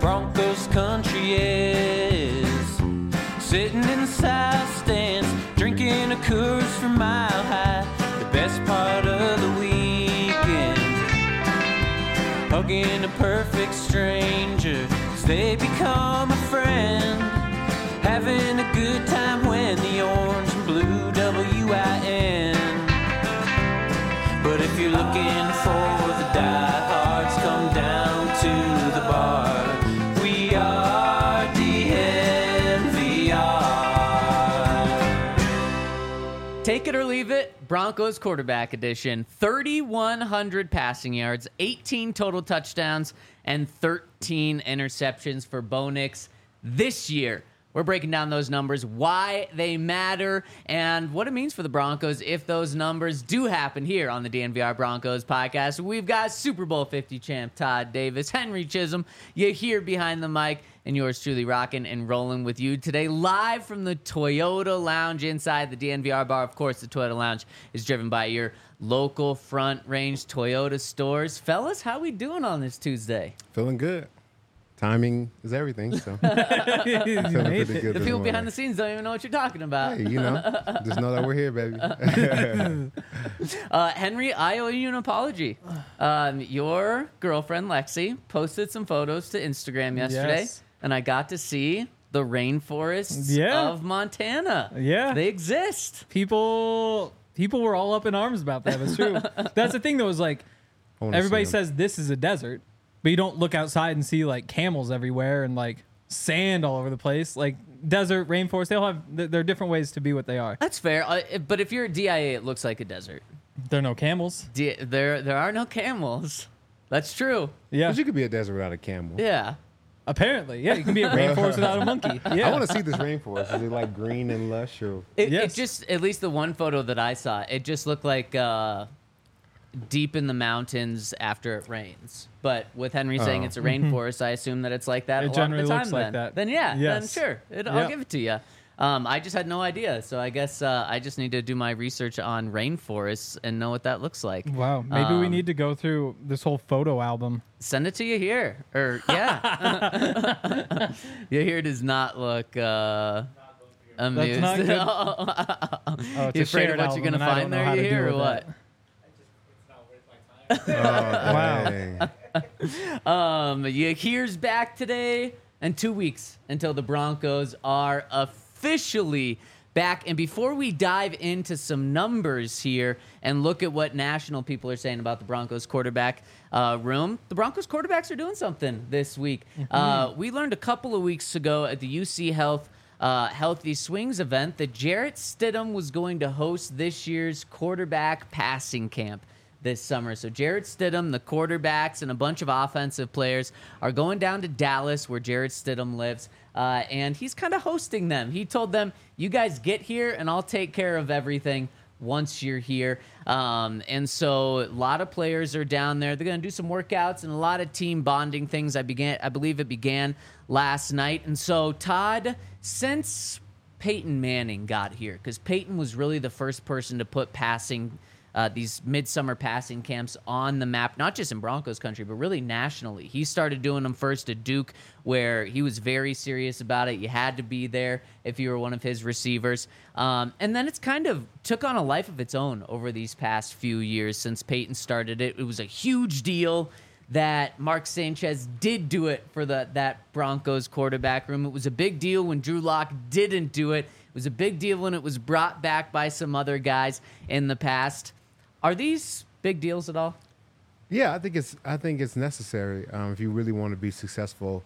Broncos country is. Sitting in the south stands, drinking a Coors from Mile High. The best part of the weekend, hugging a perfect stranger as they become a friend. Having a good time when the orange and blue WIN. But if you're looking for the diehards, come down to the bar. We are DNVR. Take it or leave it, Broncos quarterback edition. 3,100 passing yards, 18 total touchdowns, and 13 interceptions for Bo Nix this year. We're breaking down those numbers, why they matter, and what it means for the Broncos if those numbers do happen here on the DNVR Broncos podcast. We've got Super Bowl 50 champ Todd Davis, Henry Chisholm. You're here behind the mic, and yours truly rocking and rolling with you today, live from the Toyota Lounge inside the DNVR bar. Of course, the Toyota Lounge is driven by your local Front Range Toyota stores. Fellas, how we doing on this Tuesday? Feeling good. Timing is everything, so feeling pretty good. The people behind the scenes don't even know what you're talking about. Hey, just know that we're here, baby. Henry, I owe you an apology. Your girlfriend, Lexi, posted some photos to Instagram yesterday, Yes. and I got to see the rainforests of Montana. Yeah. They exist. People were all up in arms about that. It's true. That's the thing, though, is like everybody says this is a desert, but you don't look outside and see like camels everywhere and like sand all over the place. Like desert, rainforest, they all have, there are different ways to be what they are. That's fair. But if you're at DIA, it looks like a desert. There are no camels. There are no camels. That's true. Yeah. But you could be a desert without a camel. Yeah. Apparently. Yeah, you can be a rainforest without a monkey. Yeah. I want to see this rainforest. Is it like green and lush? Or It just, at least the one photo that I saw, it just looked like deep in the mountains after it rains. But with Henry saying it's a rainforest, I assume that it's like that It a lot of generally the time. looks like that. Then yeah, Yes. then sure, I'll give it to you. I just had no idea, so I guess I just need to do my research on rainforests and know what that looks like. Wow. Maybe we need to go through this whole photo album. Send it to you here, or yeah. Your here does not look amused. That's not good. You afraid of what you're gonna find there, you hear, or what? Wow. Here's back today, and 2 weeks until the Broncos are officially back. And before we dive into some numbers here and look at what national people are saying about the Broncos quarterback room, the Broncos quarterbacks are doing something this week. We learned a couple of weeks ago at the UC Health Healthy Swings event that Jarrett Stidham was going to host this year's quarterback passing camp this summer. So Jarrett Stidham, the quarterbacks, and a bunch of offensive players are going down to Dallas, where Jarrett Stidham lives, and he's kind of hosting them. He told them, you guys get here, and I'll take care of everything once you're here. And so a lot of players are down there. They're going to do some workouts and a lot of team bonding things. I believe it began last night. And so, Todd, since Peyton Manning got here, because Peyton was really the first person to put these midsummer passing camps on the map, not just in Broncos country, but really nationally. He started doing them first at Duke, where he was very serious about it. You had to be there if you were one of his receivers. And then it's kind of took on a life of its own over these past few years since Peyton started it. It was a huge deal that Mark Sanchez did do it for that Broncos quarterback room. It was a big deal when Drew Lock didn't do it. It was a big deal when it was brought back by some other guys in the past. Are these big deals at all? Yeah, I think it's necessary if you really want to be successful.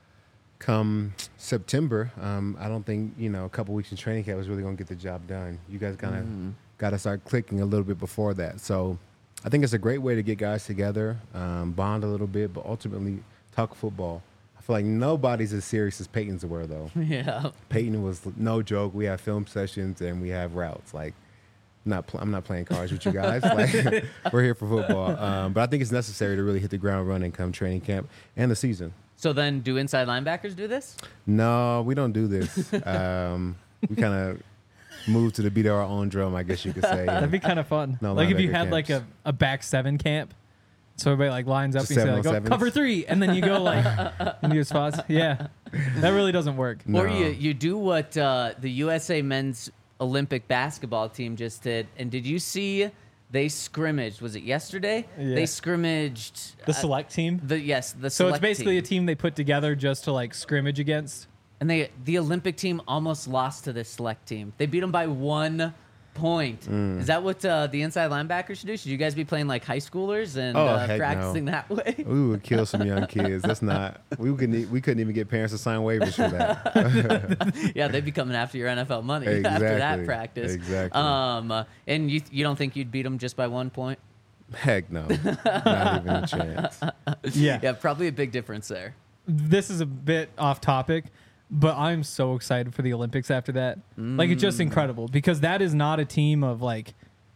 Come September, I don't think a couple weeks in training camp is really going to get the job done. You guys kind of got to start clicking a little bit before that. So I think it's a great way to get guys together, bond a little bit, but ultimately talk football. I feel like nobody's as serious as Peyton's were, though. Yeah. Peyton was no joke. We have film sessions and we have routes. Like, I'm not playing cards with you guys. Like, we're here for football. But I think it's necessary to really hit the ground running come training camp and the season. So then do inside linebackers do this? No, we don't do this. We kind of move to the beat of our own drum, I guess you could say. That'd be kind of fun. No like if you linebacker had camps. like a back seven camp, So everybody like lines up Just and you say like, 7-on-7s. cover 3, and then you go like into your spots. Yeah, that really doesn't work. No. Or you do what the USA men's Olympic basketball team just did. And did you see they scrimmaged? Was it yesterday? Yeah. They scrimmaged The select team. the So it's select basically team. a team they put together just to like scrimmage against. And the Olympic team almost lost to the select team. They beat them by 1 point. Mm. Is that what the inside linebackers should do? Should you guys be playing like high schoolers and Heck practicing no. that way? We would kill some young kids. That's not. We couldn't even get parents to sign waivers for that. Yeah, they'd be coming after your NFL money after that Exactly. practice. Exactly. And you don't think you'd beat them just by 1 point? Heck no. Not even a chance. Yeah. Yeah, probably a big difference there. This is a bit off topic, but I'm so excited for the Olympics after that. Like, it's just incredible because that is not a team of like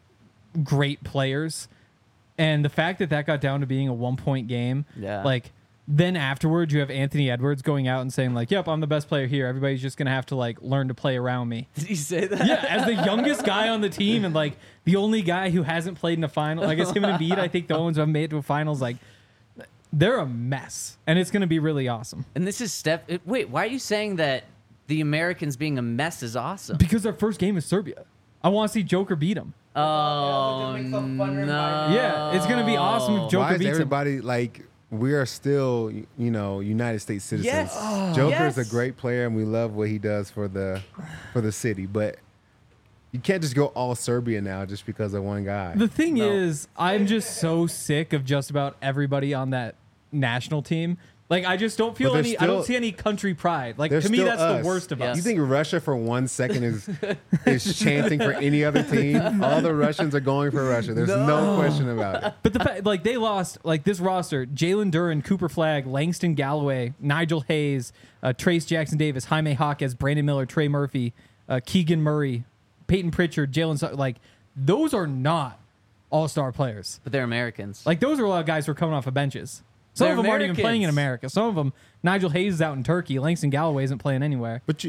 great players. And the fact that that got down to being a 1 point game, Yeah. like, then afterwards you have Anthony Edwards going out and saying like, yep, I'm the best player here. Everybody's just going to have to like learn to play around me. Did he say that? Yeah, as the youngest guy on the team and like the only guy who hasn't played in a final. I guess him and Embiid, I think the only ones who have made it to a finals, like, they're a mess. And it's going to be really awesome. And this is wait, why are you saying that the Americans being a mess is awesome? Because their first game is Serbia. I want to see Joker beat him. Oh, no. Yeah, it's going to be awesome if Joker Why is beats him. everybody like? We are still, United States citizens. Yes. Oh. Joker's Yes. a great player, and we love what he does for the city. But you can't just go all Serbia now just because of one guy. The thing No. is, I'm just so sick of just about everybody on that national team. Like, I just don't feel But any. there's I don't still- see any country pride. Like, There's to me, still that's us. the worst of Yes. us. You think Russia for 1 second is chanting for any other team? All the Russians are going for Russia. There's no question about it. But the fact, like, they lost, like, this roster: Jalen Duren, Cooper Flagg, Langston Galloway, Nigel Hayes, Trace Jackson Davis, Jaime Jaquez, Brandon Miller, Trey Murphy, Keegan Murray, Peyton Pritchard, like, those are not all-star players. But they're Americans. Like, those are a lot of guys who are coming off of benches. Some They're of them aren't even playing in Americans. America. Some of them, Nigel Hayes is out in Turkey. Langston Galloway isn't playing anywhere. But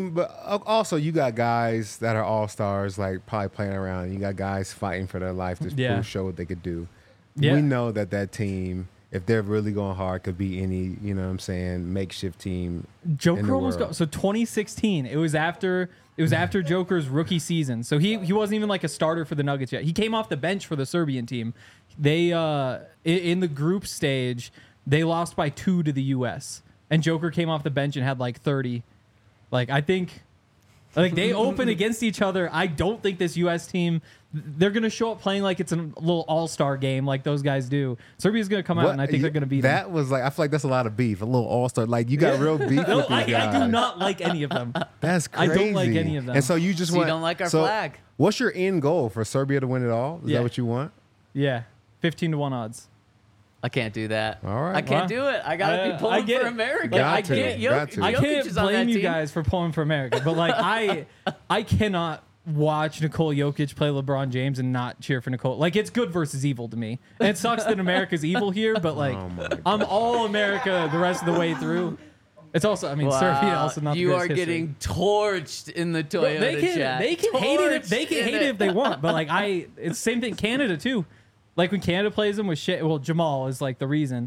also you got guys that are all stars, like probably playing around. You got guys fighting for their life to Yeah. show what they could do. Yeah. We know that team, if they're really going hard, could be any, makeshift team. in Joker the almost world. got so 2016. It was after Joker's rookie season. So he wasn't even like a starter for the Nuggets yet. He came off the bench for the Serbian team. They in the group stage, they lost by 2 to the US. And Joker came off the bench and had like 30. Like, I think like they open against each other. I don't think this US team, they're going to show up playing like it's a little all-star game like those guys do. Serbia's going to come out and I think they're going to beat them. That was like, I feel like that's a lot of beef. A little all-star. Like, you got real beef No, with these guys. I do not like any of them. That's I crazy. don't like any of them. And so you just So you want. don't like our so flag? What's your end goal for Serbia to win it all? Is Yeah. that what you want? Yeah, 15-1 odds. I can't do that. All right. I can't Wow. do it. I gotta be I pulling get for it. America. Got I to. can't. Got to. I Jokic can't is on blame that you team. guys for pulling for America, but like I cannot watch Nikola Jokic play LeBron James and not cheer for Nikola. Like, it's good versus evil to me. And it sucks that America's evil here, but like Oh my God. I'm all America the rest of the way through. It's also, I mean, Serbia also not. You the are greatest history. getting torched in the Toyota chat. They can hate it. They Torched can in hate it if they want. But like it's the same thing. Canada too. Like when Canada plays them with Shea, well, Jamal is like the reason.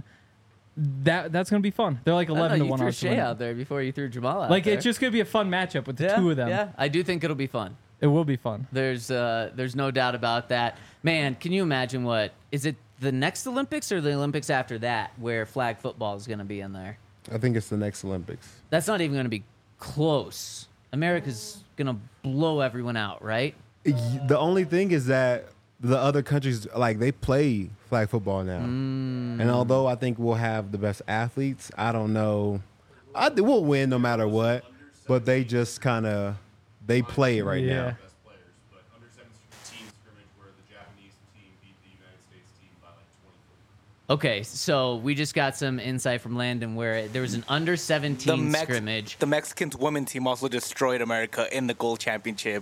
That's gonna be fun. They're like I don't know, 11 to you 1 threw odds to Shea win. out there before you threw Jamal out Like there. it's just gonna be a fun matchup with the two of them. Yeah, I do think it'll be fun. It will be fun. There's no doubt about that. Man, can you imagine what is it the next Olympics or the Olympics after that where flag football is going to be in there? I think it's the next Olympics. That's not even going to be close. America's going to blow everyone out, right? The only thing is that the other countries, like, they play flag football now. And although I think we'll have the best athletes, I don't know. We'll win no matter what. But they just kind of, they play it right Yeah. now. Best players, but under 17 scrimmage where the Japanese team beat the United States team by like 20. Okay, so we just got some insight from Landon where there was an under 17 scrimmage. The Mexicans women team also destroyed America in the gold championship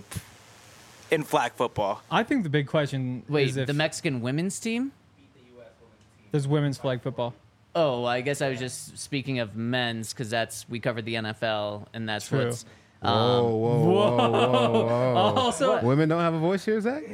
in flag football. I think the big question Wait, is if the Mexican women's team? there's women's flag football. Oh, I guess I was just speaking of men's because we covered the NFL and that's True. what's. Whoa, whoa, whoa, whoa, whoa. Also, Women don't have a voice here, Zach?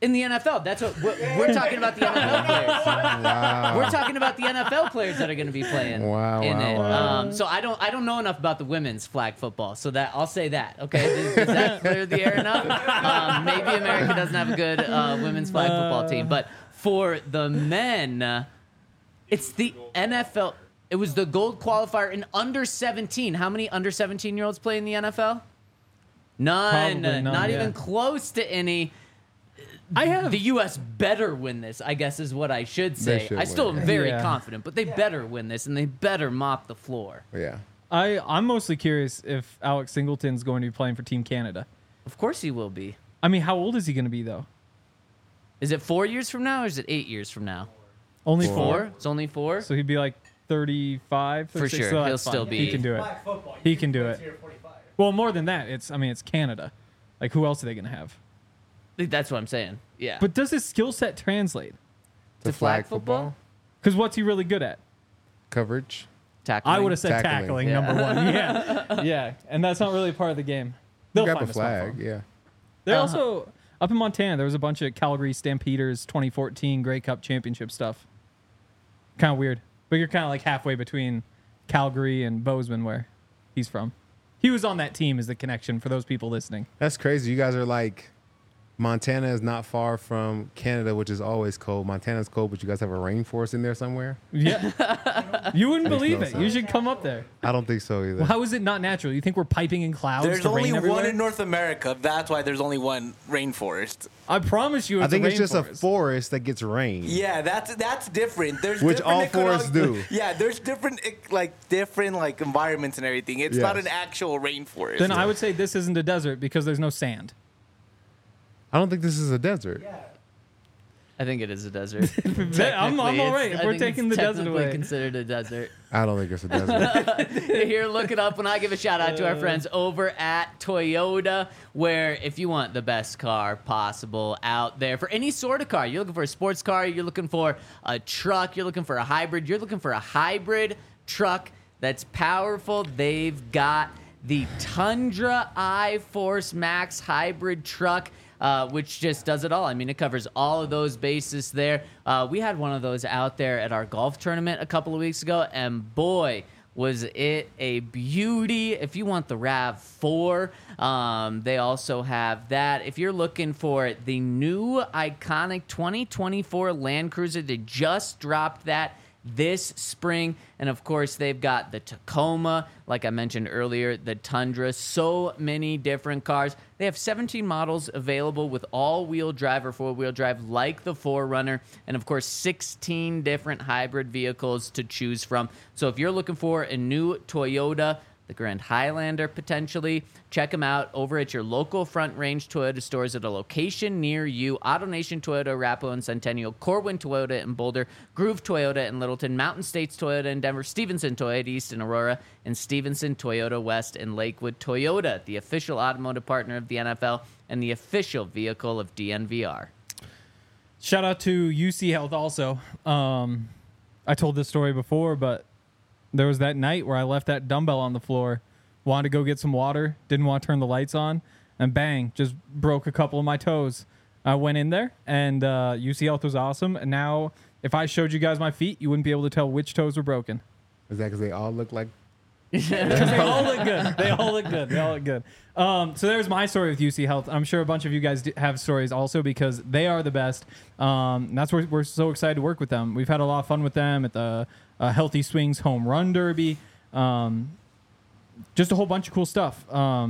In the NFL, that's what we're talking about. The NFL players. Wow. We're talking about the NFL players that are going to be playing in it. So I don't know enough about the women's flag football. So that I'll say that. Okay, does that clear the air enough? Maybe America doesn't have a good women's flag football team, but for the men, it's the NFL. It was the gold qualifier in under 17. How many under 17-year-olds play in the NFL? None. Not even close to any. The U.S. better win this, I guess is what I should say. I still am very confident, but they better win this, and they better mop the floor. Yeah. I'm mostly curious if Alex Singleton's going to be playing for Team Canada. Of course he will be. I mean, how old is he going to be, though? Is it 4 years from now, or is it 8 years from now? Only 4? It's only 4? So he'd be like 35, 36. For sure. So He'll still be. He can do it. He can do it. Well, more than that, it's Canada. Like, who else are they going to have? That's what I'm saying. Yeah. But does his skill set translate? to flag football? Because what's he really good at? Coverage. Tackling. I would have said tackling, number one. Yeah. And that's not really part of the game. They'll Grab find a a spot for flag. him. Yeah. They're also up in Montana. There was a bunch of Calgary Stampeders 2014 Grey Cup Championship stuff. Kind of weird, but you're kind of like halfway between Calgary and Bozeman, where he's from. He was on that team, is the connection for those people listening. That's crazy. You guys are like, Montana is not far from Canada, which is always cold. Montana's cold, but you guys have a rainforest in there somewhere? Yeah. You wouldn't Makes believe no it. sense. You should come up there. I don't think so either. Well, how is it not natural? You think we're piping in clouds There's to only rain one everywhere? in North America. That's why there's only one rainforest. I promise you, it's I think a it's just a rainforest. forest that gets rain. Yeah, that's different. There's Which different all forests do. Yeah, there's different environments and everything. It's not an actual rainforest. Then I would say this isn't a desert because there's no sand. I don't think this is a desert. I think it is a desert. I'm all right. If I we're think taking it's the desert technically away. considered a desert. I don't think it's a desert. Here, look it up when I give a shout out to our friends over at Toyota, where if you want the best car possible out there for any sort of car, you're looking for a sports car, you're looking for a truck, you're looking for a hybrid, you're looking for a hybrid truck that's powerful, they've got the Tundra iForce Max hybrid truck. Which just does it all. I mean, it covers all of those bases there. We had one of those out there at our golf tournament a couple of weeks ago, and boy, was it a beauty. If you want the RAV4, they also have that. If you're looking for the new iconic 2024 Land Cruiser, they just dropped that this spring. And of course, they've got the Tacoma, like I mentioned earlier, the Tundra, so many different cars. They have 17 models available with all-wheel drive or four-wheel drive like the 4Runner, and of course 16 different hybrid vehicles to choose from. So if you're looking for a new Toyota, the Grand Highlander potentially, check them out over at your local Front Range Toyota stores at a location near you. AutoNation Toyota, Arapahoe and Centennial, Corwin Toyota in Boulder, Groove Toyota in Littleton, Mountain States Toyota in Denver, Stevenson Toyota East in Aurora, and Stevenson Toyota West in Lakewood. Toyota, the official automotive partner of the NFL and the official vehicle of DNVR. Shout out to UC Health also. I told this story before, but there was that night where I left that dumbbell on the floor, wanted to go get some water, didn't want to turn the lights on, and bang, just broke a couple of my toes. I went in there, and UC Health was awesome. And now, if I showed you guys my feet, you wouldn't be able to tell which toes were broken. Is that because they all look like? Because they all look good. They all look good. They all look good. So there's my story with UC Health. I'm sure a bunch of you guys have stories also because they are the best. And that's where we're so excited to work with them. We've had a lot of fun with them at the Healthy Swings Home Run Derby. Just a whole bunch of cool stuff.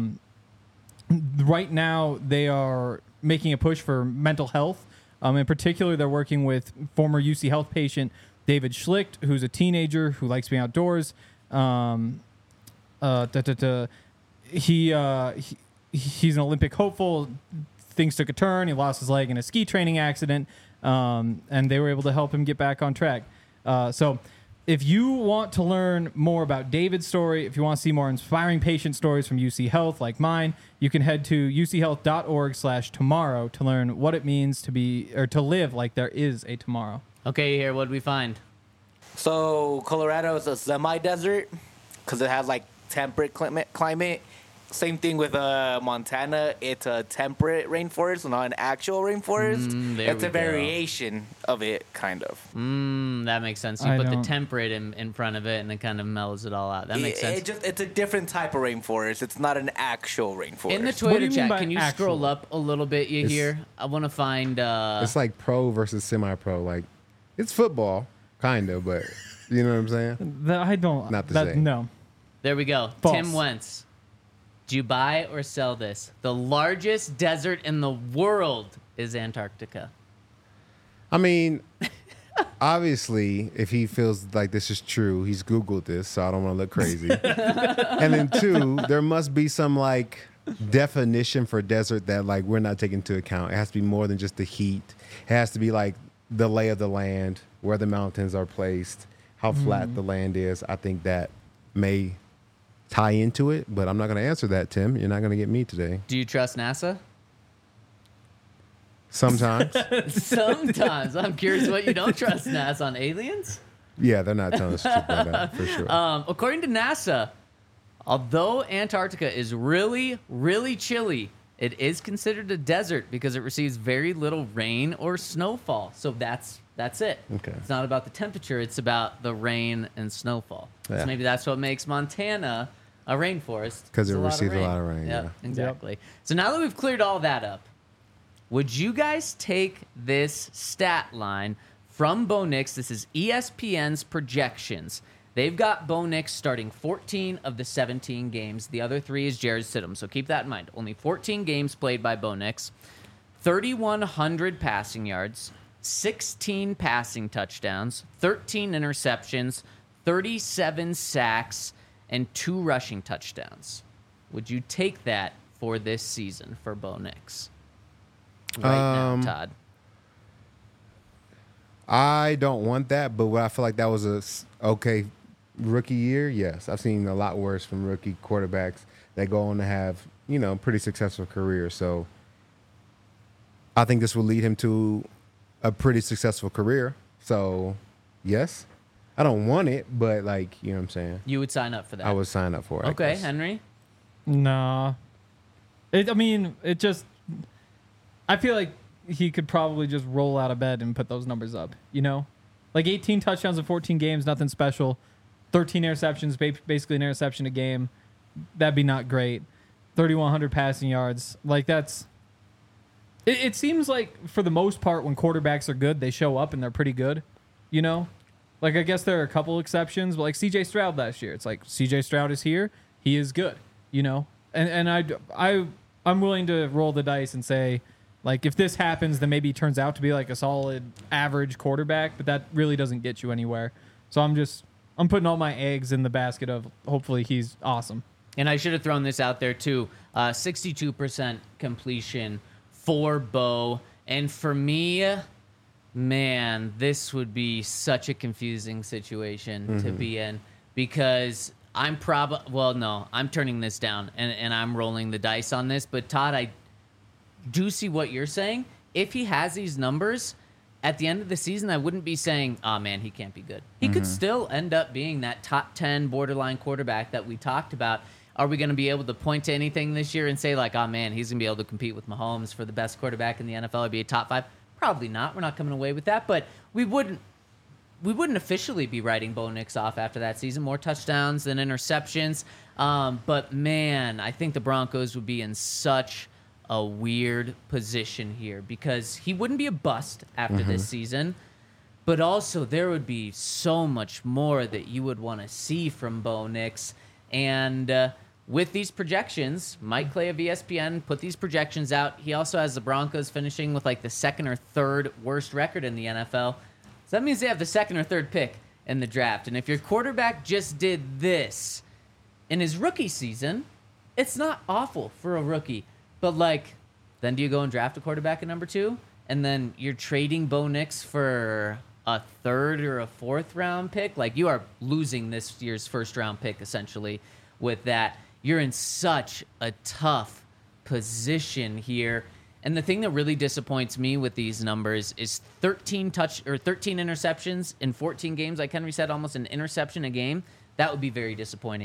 Right now, they are making a push for mental health. In particular, they're working with former UC Health patient David Schlicht, who's a teenager who likes being outdoors. He's an Olympic hopeful. Things took a turn. He lost his leg in a ski training accident, and they were able to help him get back on track. So if you want to learn more about David's story, if you want to see more inspiring patient stories from UC Health like mine, you can head to uchealth.org/tomorrow to learn what it means to live like there is a tomorrow. Okay, here, what did we find? So Colorado is a semi-desert because it has like temperate climate. Same thing with Montana. It's a temperate rainforest, not an actual rainforest. There It's we a go. variation of it, kind of. That makes sense. You I put the don't- temperate in front of it, and it kind of mellows it all out. That makes sense. It's a different type of rainforest. It's not an actual rainforest. In the What do Twitter you mean chat, by can you actual? scroll up a little bit? You It's- hear? I want to find. It's like pro versus semi-pro. Like, it's football, kind of, but you know what I'm saying? I don't. Not the same. No. There we go. False. Tim Wentz. Do you buy or sell this? The largest desert in the world is Antarctica. I mean, obviously, if he feels like this is true, he's Googled this, so I don't want to look crazy. And then two, there must be some like definition for desert that like we're not taking into account. It has to be more than just the heat. It has to be like the lay of the land, where the mountains are placed, how flat the land is. I think that may tie into it, but I'm not going to answer that, Tim. You're not going to get me today. Do you trust NASA? Sometimes. Sometimes. I'm curious what you don't trust NASA on aliens. Yeah, they're not telling us the truth about that, for sure. According to NASA, although Antarctica is really, really chilly, it is considered a desert because it receives very little rain or snowfall. So that's it. Okay. It's not about the temperature, it's about the rain and snowfall. Yeah. So maybe that's what makes Montana a rainforest. 'Cause It's it receives a lot of rain, Yep, yeah. exactly. So now that we've cleared all that up, would you guys take this stat line from Bo Nix? This is E ESPN's projections. They've got Bo Nix starting 14 of the 17 games. The other 3 is Jared Stidham. So keep that in mind. Only 14 games played by Bo Nix. 3,100 passing yards, 16 passing touchdowns, 13 interceptions, 37 sacks, and 2 rushing touchdowns. Would you take that for this season for Bo Nix? Right now, Todd. I don't want that, but what I feel like that was okay rookie year. Yes, I've seen a lot worse from rookie quarterbacks that go on to have pretty successful careers. So I think this will lead him to a pretty successful career. So yes, I don't want it, but like you know what I'm saying. You would sign up for that. I would sign up for it. I Okay, guess. Henry. Nah. It just. I feel like he could probably just roll out of bed and put those numbers up. Like 18 touchdowns in 14 games, nothing special. 13 interceptions, basically an interception a game. That'd be not great. 3,100 passing yards. Like that's. It seems like for the most part, when quarterbacks are good, they show up and they're pretty good. Like I guess there are a couple exceptions, but like C.J. Stroud last year, it's like C.J. Stroud is here, he is good. And I'm willing to roll the dice and say, like, if this happens, then maybe he turns out to be like a solid average quarterback, but that really doesn't get you anywhere. So I'm putting all my eggs in the basket of hopefully he's awesome. And I should have thrown this out there too. 62% completion for Bo. And for me, man, this would be such a confusing situation to be in because I'm I'm turning this down and I'm rolling the dice on this. But Todd, I do see what you're saying. If he has these numbers at the end of the season, I wouldn't be saying, oh man, he can't be good. He could still end up being that top 10 borderline quarterback that we talked about. Are we going to be able to point to anything this year and say like, oh man, he's going to be able to compete with Mahomes for the best quarterback in the NFL or be a top 5? Probably not. We're not coming away with that, but we wouldn't officially be writing Bo Nix off after that season. More touchdowns than interceptions. But man, I think the Broncos would be in such a weird position here because he wouldn't be a bust after this season, but also there would be so much more that you would want to see from Bo Nix. And with these projections, Mike Clay of ESPN put these projections out. He also has the Broncos finishing with like the 2nd or 3rd worst record in the NFL. So that means they have the 2nd or 3rd pick in the draft. And if your quarterback just did this in his rookie season, it's not awful for a rookie. But, like, then do you go and draft a quarterback at number 2? And then you're trading Bo Nix for a 3rd or a 4th round pick? Like, you are losing this year's 1st round pick, essentially, with that. You're in such a tough position here. And the thing that really disappoints me with these numbers is 13 interceptions in 14 games. Like Henry said, almost an interception a game. That would be very disappointing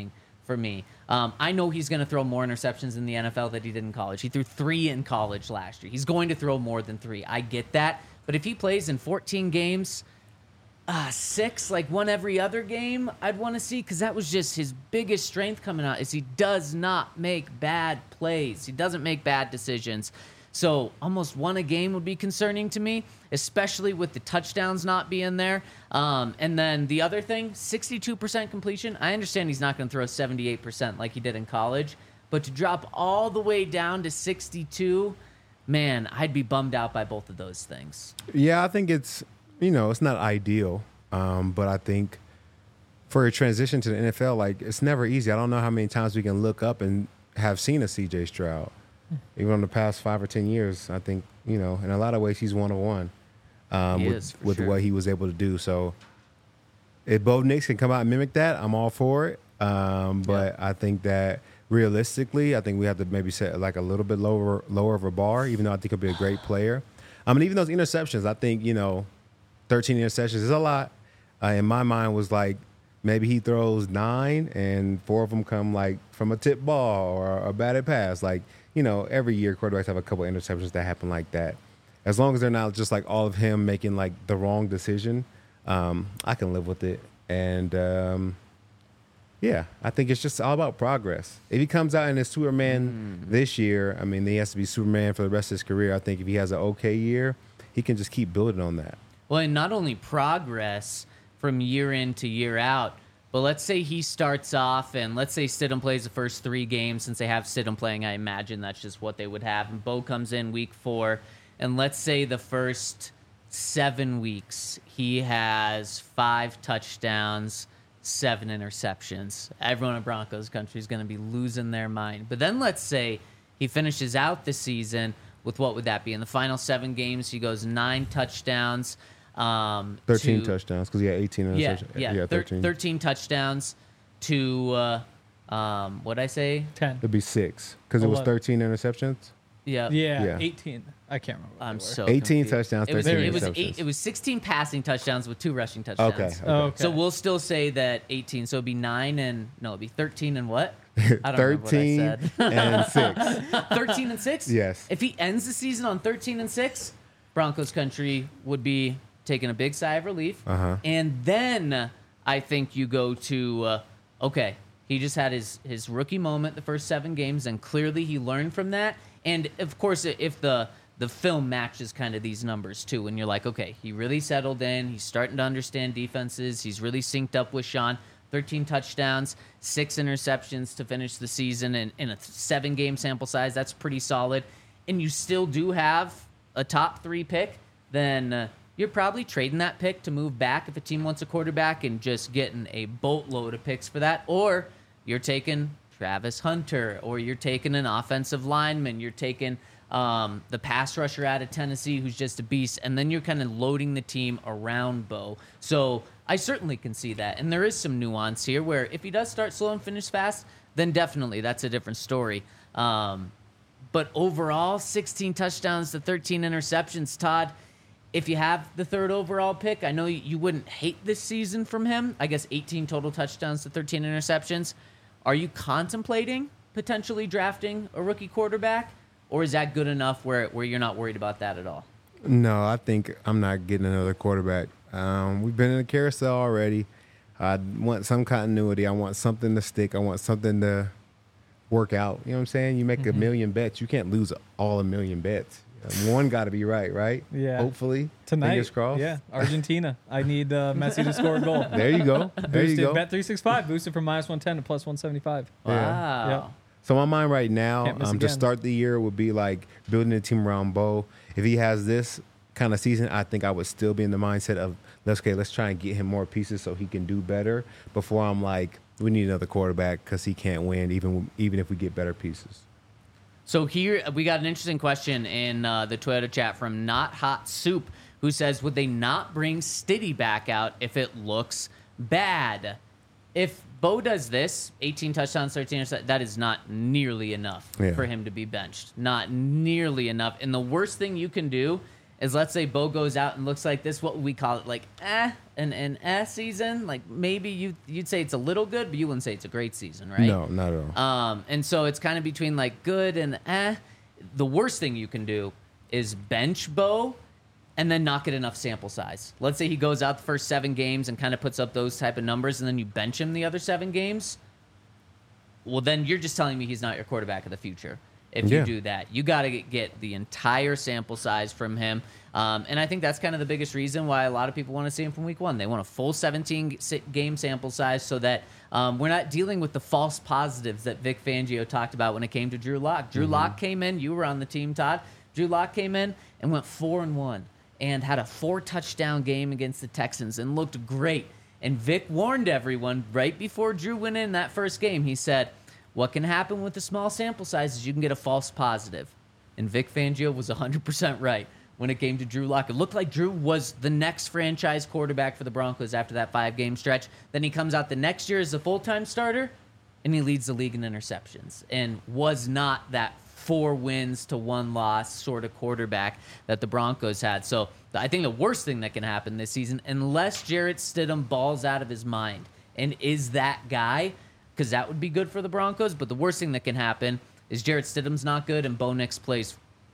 for me. I know he's going to throw more interceptions in the NFL than he did in college. He threw 3 in college last year. He's going to throw more than 3. I get that. But if he plays in 14 games, 6, like one every other game, I'd want to see, because that was just his biggest strength coming out, is he does not make bad plays. He doesn't make bad decisions. So almost 1 a game would be concerning to me, especially with the touchdowns not being there. And then the other thing, 62% completion. I understand he's not going to throw 78% like he did in college, but to drop all the way down to 62, man, I'd be bummed out by both of those things. Yeah, I think it's, it's not ideal, but I think for a transition to the NFL, like, it's never easy. I don't know how many times we can look up and have seen a CJ Stroud. Even in the past 5 or 10 years, I think, in a lot of ways he's one of one with what he was able to do. So if both Knicks can come out and mimic that, I'm all for it. But I think that realistically, I think we have to maybe set like a little bit lower of a bar, even though I think he'll be a great player. Even those interceptions, I think, 13 interceptions is a lot. In my mind was like, maybe he throws 9 and 4 of them come like from a tip ball or a batted pass. Like, every year quarterbacks have a couple interceptions that happen like that. As long as they're not just like all of him making like the wrong decision, I can live with it. And I think it's just all about progress. If he comes out and is Superman this year, he has to be Superman for the rest of his career. I think if he has an okay year, he can just keep building on that. Well, and not only progress from year in to year out, but let's say he starts off, and let's say Stidham plays the first 3 games. Since they have Stidham playing, I imagine that's just what they would have. And Bo comes in week 4, and let's say the first 7 weeks he has 5 touchdowns, 7 interceptions. Everyone in Broncos country is going to be losing their mind. But then let's say he finishes out the season with, what would that be? In the final 7 games, he goes 9 touchdowns. 13 touchdowns, because he had 18 interceptions. 13. 13 touchdowns to, what'd I say? 10. It'd be 6, because it was 13 interceptions. Yeah. Yeah, 18. I can't remember. I'm so 18 confused. touchdowns, 13 interceptions. It was 16 passing touchdowns with 2 rushing touchdowns. Okay. Okay. So we'll still say that 18. So it'd be 9 and, no, it'd be 13 and what? I don't remember what I said. and 6. 13 and 6? Yes. If he ends the season on 13 and 6, Broncos country would be taking a big sigh of relief. And then I think you go to, okay, he just had his rookie moment the first 7 games, and clearly he learned from that. And, of course, if the film matches kind of these numbers, too, and you're like, okay, he really settled in. He's starting to understand defenses. He's really synced up with Sean. 13 touchdowns, 6 interceptions to finish the season in a 7-game sample size. That's pretty solid. And you still do have a top 3 pick, then you're probably trading that pick to move back if a team wants a quarterback and just getting a boatload of picks for that. Or you're taking Travis Hunter, or you're taking an offensive lineman. You're taking the pass rusher out of Tennessee who's just a beast, and then you're kind of loading the team around Bo. So I certainly can see that. And there is some nuance here where if he does start slow and finish fast, then definitely that's a different story. But overall, 16 touchdowns to 13 interceptions, Todd. If you have the 3rd overall pick, I know you wouldn't hate this season from him. I guess 18 total touchdowns to 13 interceptions. Are you contemplating potentially drafting a rookie quarterback, or is that good enough where you're not worried about that at all? No, I think I'm not getting another quarterback. We've been in a carousel already. I want some continuity. I want something to stick. I want something to work out. You know what I'm saying? You make a million bets. You can't lose all a million bets. One got to be right? Yeah. Hopefully. Tonight. Fingers crossed. Yeah. Argentina. I need Messi to score a goal. There you go. There you go. Bet365. Boosted from -110 to +175. Wow. Yeah. So my mind right now, Can't miss to again. start the year would be like building a team around Bo. If he has this kind of season, I think I would still be in the mindset of, let's try and get him more pieces so he can do better before I'm like, we need another quarterback because he can't win even if we get better pieces. So here we got an interesting question in the Toyota chat from Not Hot Soup, who says, would they not bring Stiddy back out if it looks bad? If Bo does this, 18 touchdowns, 13 interceptions, that is not nearly enough for him to be benched. Not nearly enough. And the worst thing you can do is, let's say Bo goes out and looks like this. What would we call it? Like an season? Like maybe you'd say it's a little good, but you wouldn't say it's a great season, right? No, not at all. And so it's kind of between like good and The worst thing you can do is bench Bo and then not get enough sample size. Let's say he goes out the first 7 games and kind of puts up those type of numbers, and then you bench him the other 7 games. Well, then you're just telling me he's not your quarterback of the future. If you do that, you got to get the entire sample size from him. And I think that's kind of the biggest reason why a lot of people want to see him from week 1. They want a full 17-game sample size so that we're not dealing with the false positives that Vic Fangio talked about when it came to Drew Lock. Drew Lock came in. You were on the team, Todd. Drew Lock came in and went 4-1 and had a 4-touchdown game against the Texans and looked great. And Vic warned everyone right before Drew went in that first game. He said, what can happen with the small sample size is you can get a false positive. And Vic Fangio was 100% right when it came to Drew Lock. It looked like Drew was the next franchise quarterback for the Broncos after that 5-game stretch. Then he comes out the next year as a full-time starter, and he leads the league in interceptions and was not that 4 wins to 1 loss sort of quarterback that the Broncos had. So I think the worst thing that can happen this season, unless Jarrett Stidham balls out of his mind and is that guy, because that would be good for the Broncos, but the worst thing that can happen is Jarrett Stidham's not good and Bo Nix plays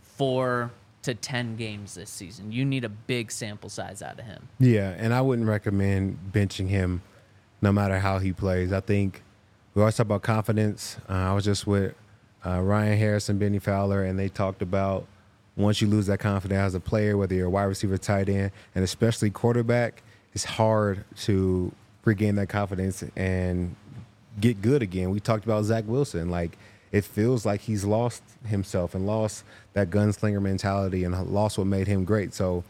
4 to 10 games this season. You need a big sample size out of him. Yeah, and I wouldn't recommend benching him no matter how he plays. I think we always talk about confidence. I was just with Ryan Harris and Benny Fowler, and they talked about once you lose that confidence as a player, whether you're a wide receiver, tight end, and especially quarterback, it's hard to regain that confidence and get good again. We talked about Zach Wilson. Like, it feels like he's lost himself and lost that gunslinger mentality and lost what made him great. So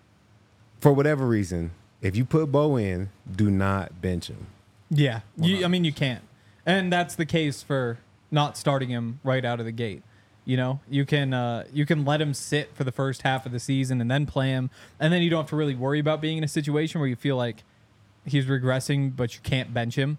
for whatever reason, if you put Bo in, do not bench him. Yeah. You can't. And that's the case for not starting him right out of the gate. You know, you can let him sit for the first half of the season and then play him, and then you don't have to really worry about being in a situation where you feel like he's regressing, but you can't bench him.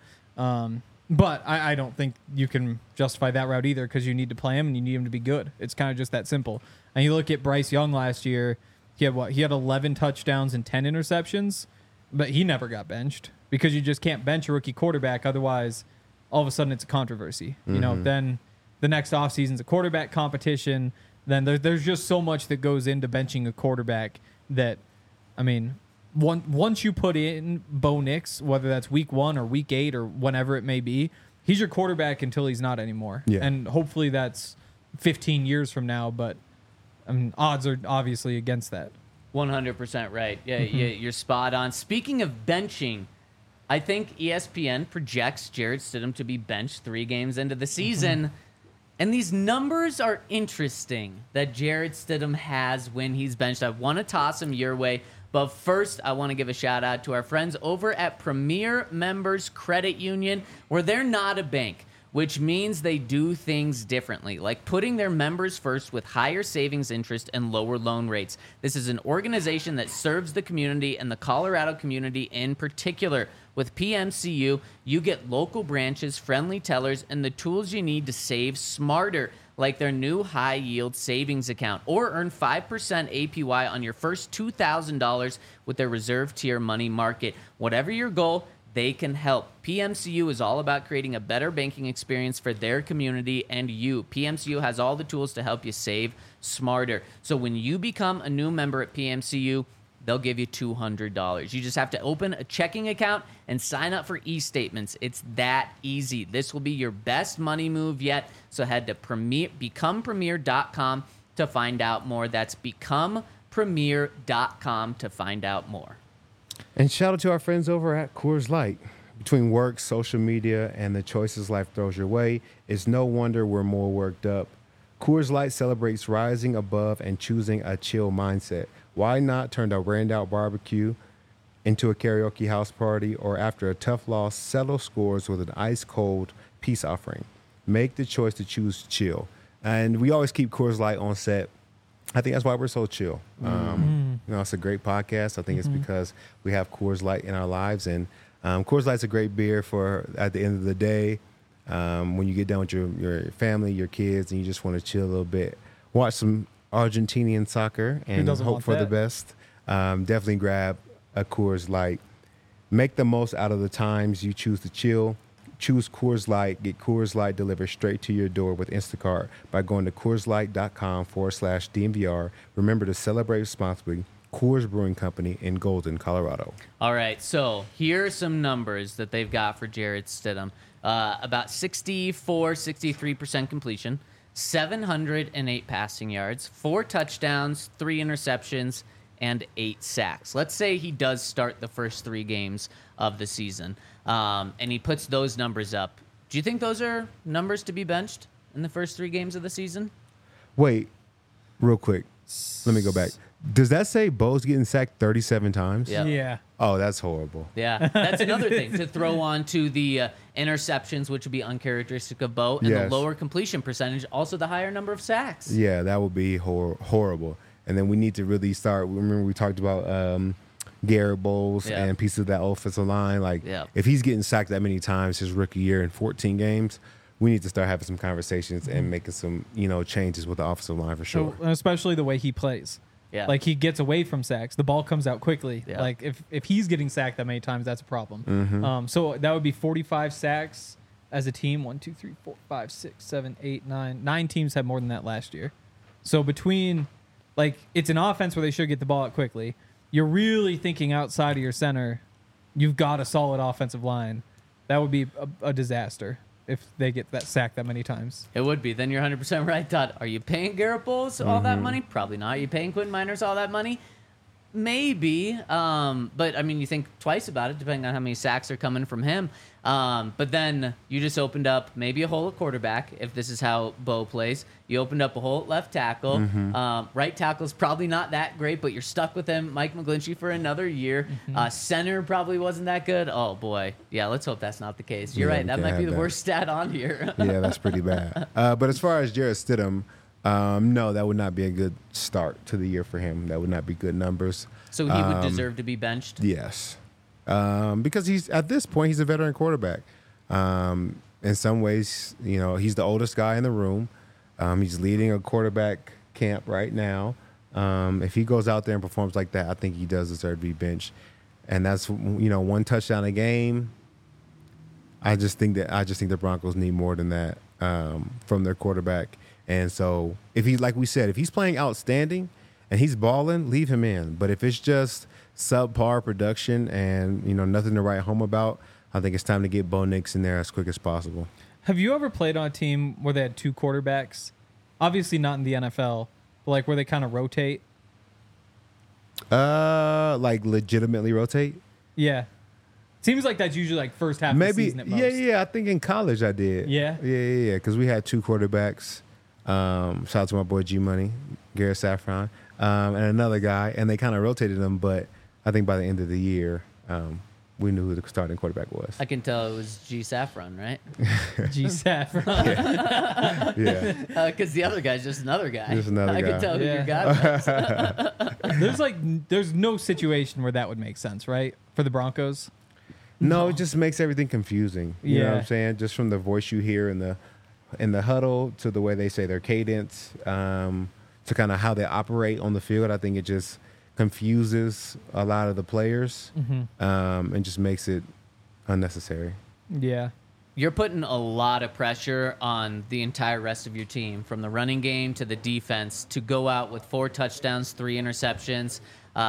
But I don't think you can justify that route either, because you need to play him and you need him to be good. It's kind of just that simple. And you look at Bryce Young last year, he had 11 touchdowns and 10 interceptions, but he never got benched because you just can't bench a rookie quarterback. Otherwise, all of a sudden it's a controversy. You know, then the next offseason's a quarterback competition. Then there's just so much that goes into benching a quarterback that, I mean, once you put in Bo Nix, whether that's week 1 or week 8 or whenever it may be, he's your quarterback until he's not anymore. Yeah. And hopefully that's 15 years from now, but I mean, odds are obviously against that. 100% right. Yeah, you're spot on. Speaking of benching, I think ESPN projects Jarrett Stidham to be benched 3 games into the season. And these numbers are interesting that Jarrett Stidham has when he's benched. I want to toss him your way. But first, I want to give a shout out to our friends over at Premier Members Credit Union, where they're not a bank, which means they do things differently, like putting their members first with higher savings interest and lower loan rates. This is an organization that serves the community and the Colorado community in particular. With PMCU, you get local branches, friendly tellers, and the tools you need to save smarter, like their new high-yield savings account, or earn 5% APY on your first $2,000 with their reserve tier money market. Whatever your goal, they can help. PMCU is all about creating a better banking experience for their community and you. PMCU has all the tools to help you save smarter. So when you become a new member at PMCU, they'll give you $200. You just have to open a checking account and sign up for e-statements. It's that easy. This will be your best money move yet. So head to becomepremier.com to find out more. That's becomepremier.com to find out more. And shout out to our friends over at Coors Light. Between work, social media, and the choices life throws your way, it's no wonder we're more worked up. Coors Light celebrates rising above and choosing a chill mindset. Why not turn a rained-out barbecue into a karaoke house party, or after a tough loss, settle scores with an ice-cold peace offering? Make the choice to choose chill. And we always keep Coors Light on set. I think that's why we're so chill. You know, it's a great podcast. I think it's because we have Coors Light in our lives. And Coors Light's a great beer for at the end of the day, when you get done with your family, your kids, and you just want to chill a little bit. Watch some Argentinian soccer and doesn't hope want for the that? best, definitely grab a Coors Light. Make the most out of the times you choose to chill. Choose Coors Light. Get Coors Light delivered straight to your door with Instacart by going to CoorsLight.com/DNVR. Remember to celebrate responsibly. Coors Brewing Company in Golden, Colorado. All right, so here are some numbers that they've got for Jarrett Stidham. About 63% completion, 708 passing yards, 4 touchdowns, 3 interceptions, and 8 sacks. Let's say he does start the first 3 games of the season, and he puts those numbers up. Do you think those are numbers to be benched in the first 3 games of the season? Wait, real quick. Let me go back. Does that say Bo's getting sacked 37 times? Yeah. Yeah. Oh, that's horrible. Yeah, that's another thing to throw on to the interceptions, which would be uncharacteristic of Bo, and Yes. the lower completion percentage, also the higher number of sacks. Yeah, that would be horrible. And then we need to really start. Remember, we talked about Garrett Bowles Yeah. and pieces of that offensive line. Like, Yeah. if he's getting sacked that many times his rookie year in 14 games, we need to start having some conversations and making some, changes with the offensive line for sure. So, especially the way he plays. Yeah. Like he gets away from sacks. The ball comes out quickly. Yeah. Like if he's getting sacked that many times, that's a problem. Mm-hmm. So that would be 45 sacks as a team. 1, 2, 3, 4, 5, 6, 7, 8, 9. 9 teams had more than that last year. So between, like, it's an offense where they should get the ball out quickly. You're really thinking outside of your center. You've got a solid offensive line. That would be a disaster if they get that sacked that many times. It would be. Then you're 100% right, Todd. Are you paying Garrett Bowles all that money? Probably not. Are you paying Quinn Miners all that money? Maybe. But, I mean, you think twice about it, depending on how many sacks are coming from him. But then you just opened up maybe a hole at quarterback, if this is how Bo plays. You opened up a hole at left tackle. Right tackle is probably not that great, but you're stuck with him, Mike McGlinchey, for another year. Center probably wasn't that good. Oh, boy. Yeah, let's hope that's not the case. You're Yeah, right. we That can't might be have the that. worst stat on here. Yeah, that's pretty bad. But as far as Jarrett Stidham, no, that would not be a good start to the year for him. That would not be good numbers. So he would deserve to be benched? Yes. Because he's at this point, he's a veteran quarterback. In some ways, he's the oldest guy in the room. He's leading a quarterback camp right now. If he goes out there and performs like that, I think he does deserve to be benched. And that's, 1 touchdown a game. I just think the Broncos need more than that from their quarterback. And so if like we said, if he's playing outstanding and he's balling, leave him in. But if it's just subpar production and, nothing to write home about, I think it's time to get Bo Nix in there as quick as possible. Have you ever played on a team where they had 2 quarterbacks? Obviously not in the NFL, but like where they kind of rotate? Like legitimately rotate? Yeah. Seems like that's usually like first half of the Maybe. season at most. Yeah. I think in college I did. Yeah? Yeah. Because we had 2 quarterbacks. Shout out to my boy G Money, Garrett Saffron, and another guy, and they kind of rotated them. But I think by the end of the year, we knew who the starting quarterback was. I can tell it was G Saffron, right? G Saffron. Yeah. Because the other guy's just another guy. Just another I guy. can tell who Yeah. your guy was. There's no situation where that would make sense, right? For the Broncos. No, it just makes everything confusing. You know what Yeah. I'm saying? Just from the voice you hear in the huddle to the way they say their cadence, to kind of how they operate on the field. I think it just confuses a lot of the players, and just makes it unnecessary. Yeah. You're putting a lot of pressure on the entire rest of your team, from the running game to the defense, to go out with 4 touchdowns, 3 interceptions,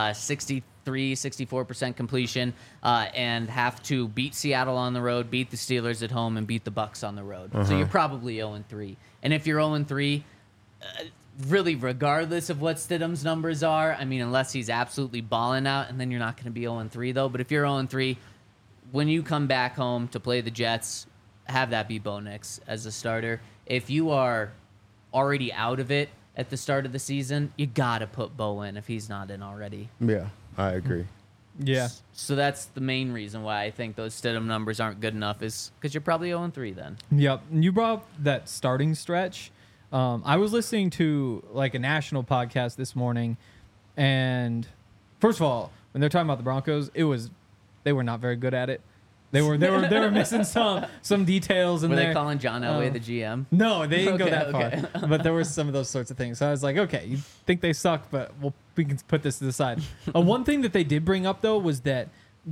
64% completion, and have to beat Seattle on the road, beat the Steelers at home, and beat the Bucs on the road. So you're probably 0-3. And if you're 0-3, really, regardless of what Stidham's numbers are, I mean, unless he's absolutely balling out, and then you're not going to be 0-3, though. But if you're 0-3, when you come back home to play the Jets, have that be Bo Nix as a starter. If you are already out of it at the start of the season, you got to put Bo in if he's not in already. Yeah, I agree. Yeah. So that's the main reason why I think those Stidham numbers aren't good enough, is because you're probably 0-3 then. Yep. And you brought up that starting stretch. I was listening to like a national podcast this morning, and first of all, when they're talking about the Broncos, they were not very good at it. They were missing some details in Were there. they calling John Elway the GM? No, they didn't go Okay, that far. But there were some of those sorts of things. So I was like, okay, you think they suck, but we can put this to the side. One thing that they did bring up though was that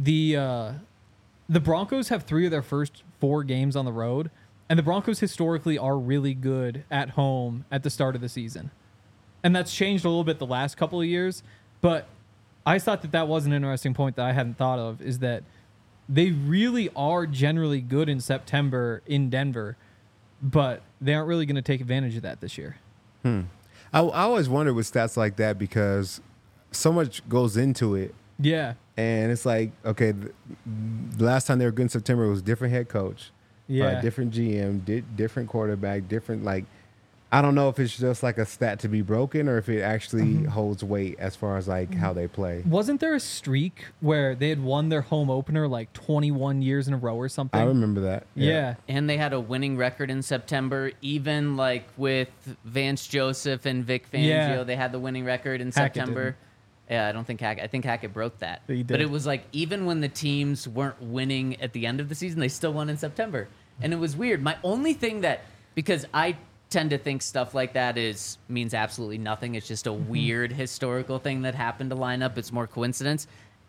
the Broncos have 3 of their first 4 games on the road, and the Broncos historically are really good at home at the start of the season. And that's changed a little bit the last couple of years, but I thought that was an interesting point that I hadn't thought of, is that they really are generally good in September in Denver, but they aren't really going to take advantage of that this year. I always wonder with stats like that because so much goes into it. Yeah. And it's like, okay, the last time they were good in September, it was different head coach, different GM, different quarterback, different, like, I don't know if it's just like a stat to be broken or if it actually holds weight as far as like how they play. Wasn't there a streak where they had won their home opener like 21 years in a row or something? I remember that. Yeah. And they had a winning record in September, even like with Vance Joseph and Vic Fangio. Yeah. They had the winning record in Hackett September. didn't. Yeah, I don't think Hackett. I think Hackett broke that. He did. But it was like even when the teams weren't winning at the end of the season, they still won in September, and it was weird. My only thing that, because I tend to think stuff like that means absolutely nothing. It's just a weird historical thing that happened to line up. It's more coincidence.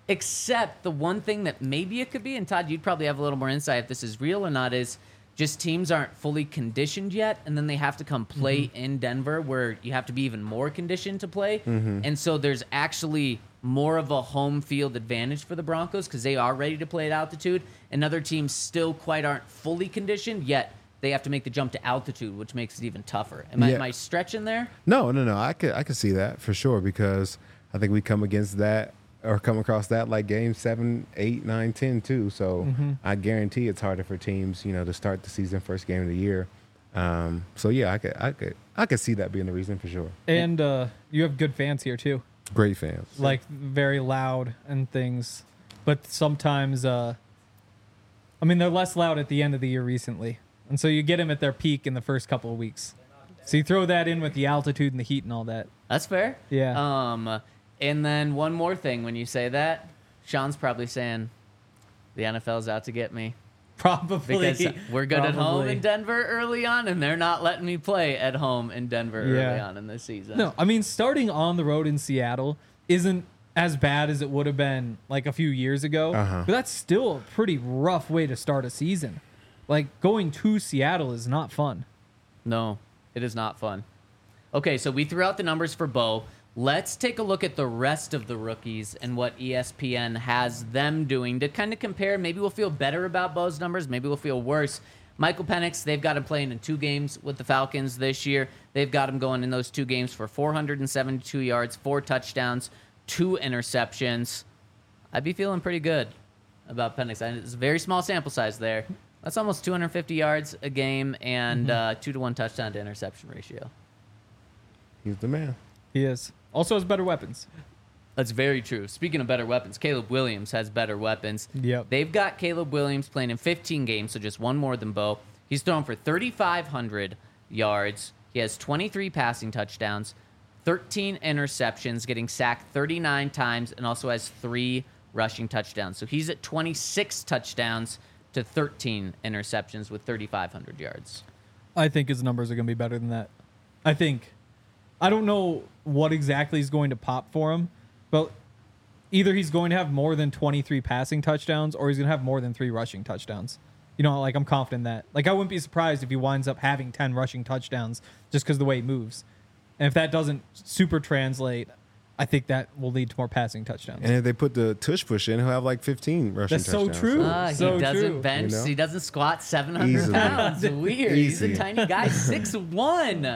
Except the one thing that maybe it could be, and Todd, you'd probably have a little more insight if this is real or not, is just teams aren't fully conditioned yet, and then they have to come play in Denver where you have to be even more conditioned to play. And so there's actually more of a home field advantage for the Broncos because they are ready to play at altitude, and other teams still quite aren't fully conditioned yet. They have to make the jump to altitude, which makes it even tougher. Am I stretching there? No. I could see that for sure because I think we come against that or come across that like game 7, 8, 9, 10 too. So I guarantee it's harder for teams, to start the season first game of the year. So yeah, I could see that being the reason for sure. And you have good fans here too. Great fans. Like very loud and things, but sometimes they're less loud at the end of the year recently. And so you get them at their peak in the first couple of weeks. So you throw that in with the altitude and the heat and all that. That's fair. Yeah. And then one more thing when you say that, Sean's probably saying the NFL's out to get me. Probably. Because we're good at home in Denver early on, and they're not letting me play at home in Denver early on in this season. No, starting on the road in Seattle isn't as bad as it would have been like a few years ago. But that's still a pretty rough way to start a season. Like, going to Seattle is not fun. No, it is not fun. Okay, so we threw out the numbers for Bo. Let's take a look at the rest of the rookies and what ESPN has them doing to kind of compare. Maybe we'll feel better about Bo's numbers. Maybe we'll feel worse. Michael Penix, they've got him playing in 2 games with the Falcons this year. They've got him going in those 2 games for 472 yards, 4 touchdowns, 2 interceptions. I'd be feeling pretty good about Penix. It's a very small sample size there. That's almost 250 yards a game and 2-to-1 touchdown to interception ratio. He's the man. He is. Also has better weapons. That's very true. Speaking of better weapons, Caleb Williams has better weapons. Yep. They've got Caleb Williams playing in 15 games, so just 1 more than Bo. He's thrown for 3,500 yards. He has 23 passing touchdowns, 13 interceptions, getting sacked 39 times, and also has 3 rushing touchdowns. So he's at 26 touchdowns to 13 interceptions with 3,500 yards. I think his numbers are going to be better than that. I don't know what exactly is going to pop for him, but either he's going to have more than 23 passing touchdowns or he's going to have more than 3 rushing touchdowns. I'm confident in that. Like, I wouldn't be surprised if he winds up having 10 rushing touchdowns just because of the way he moves. And if that doesn't super translate, I think that will lead to more passing touchdowns. And if they put the tush push in, he'll have like 15 rushing That's so touchdowns. true. So he doesn't true. bench. He doesn't squat 700 Easily. pounds. Weird. He's Easy. a tiny guy, 6'1".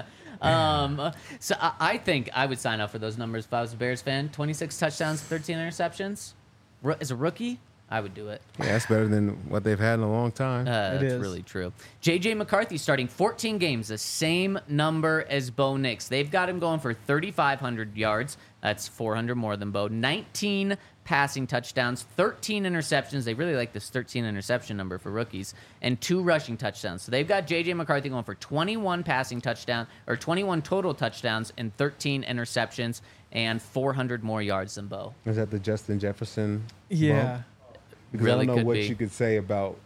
So I think I would sign up for those numbers if I was a Bears fan. 26 touchdowns, 13 interceptions. As a rookie, I would do it. Yeah, that's better than what they've had in a long time. That's is. really true. J.J. McCarthy starting 14 games, the same number as Bo Nix. They've got him going for 3,500 yards. That's 400 more than Bo. 19 passing touchdowns, 13 interceptions. They really like this 13 interception number for rookies, and 2 rushing touchdowns. So they've got J.J. McCarthy going for 21 passing touchdowns, or 21 total touchdowns and 13 interceptions, and 400 more yards than Bo. Is that the Justin Jefferson? Yeah. bump? Because Really I don't know could what be. you could say about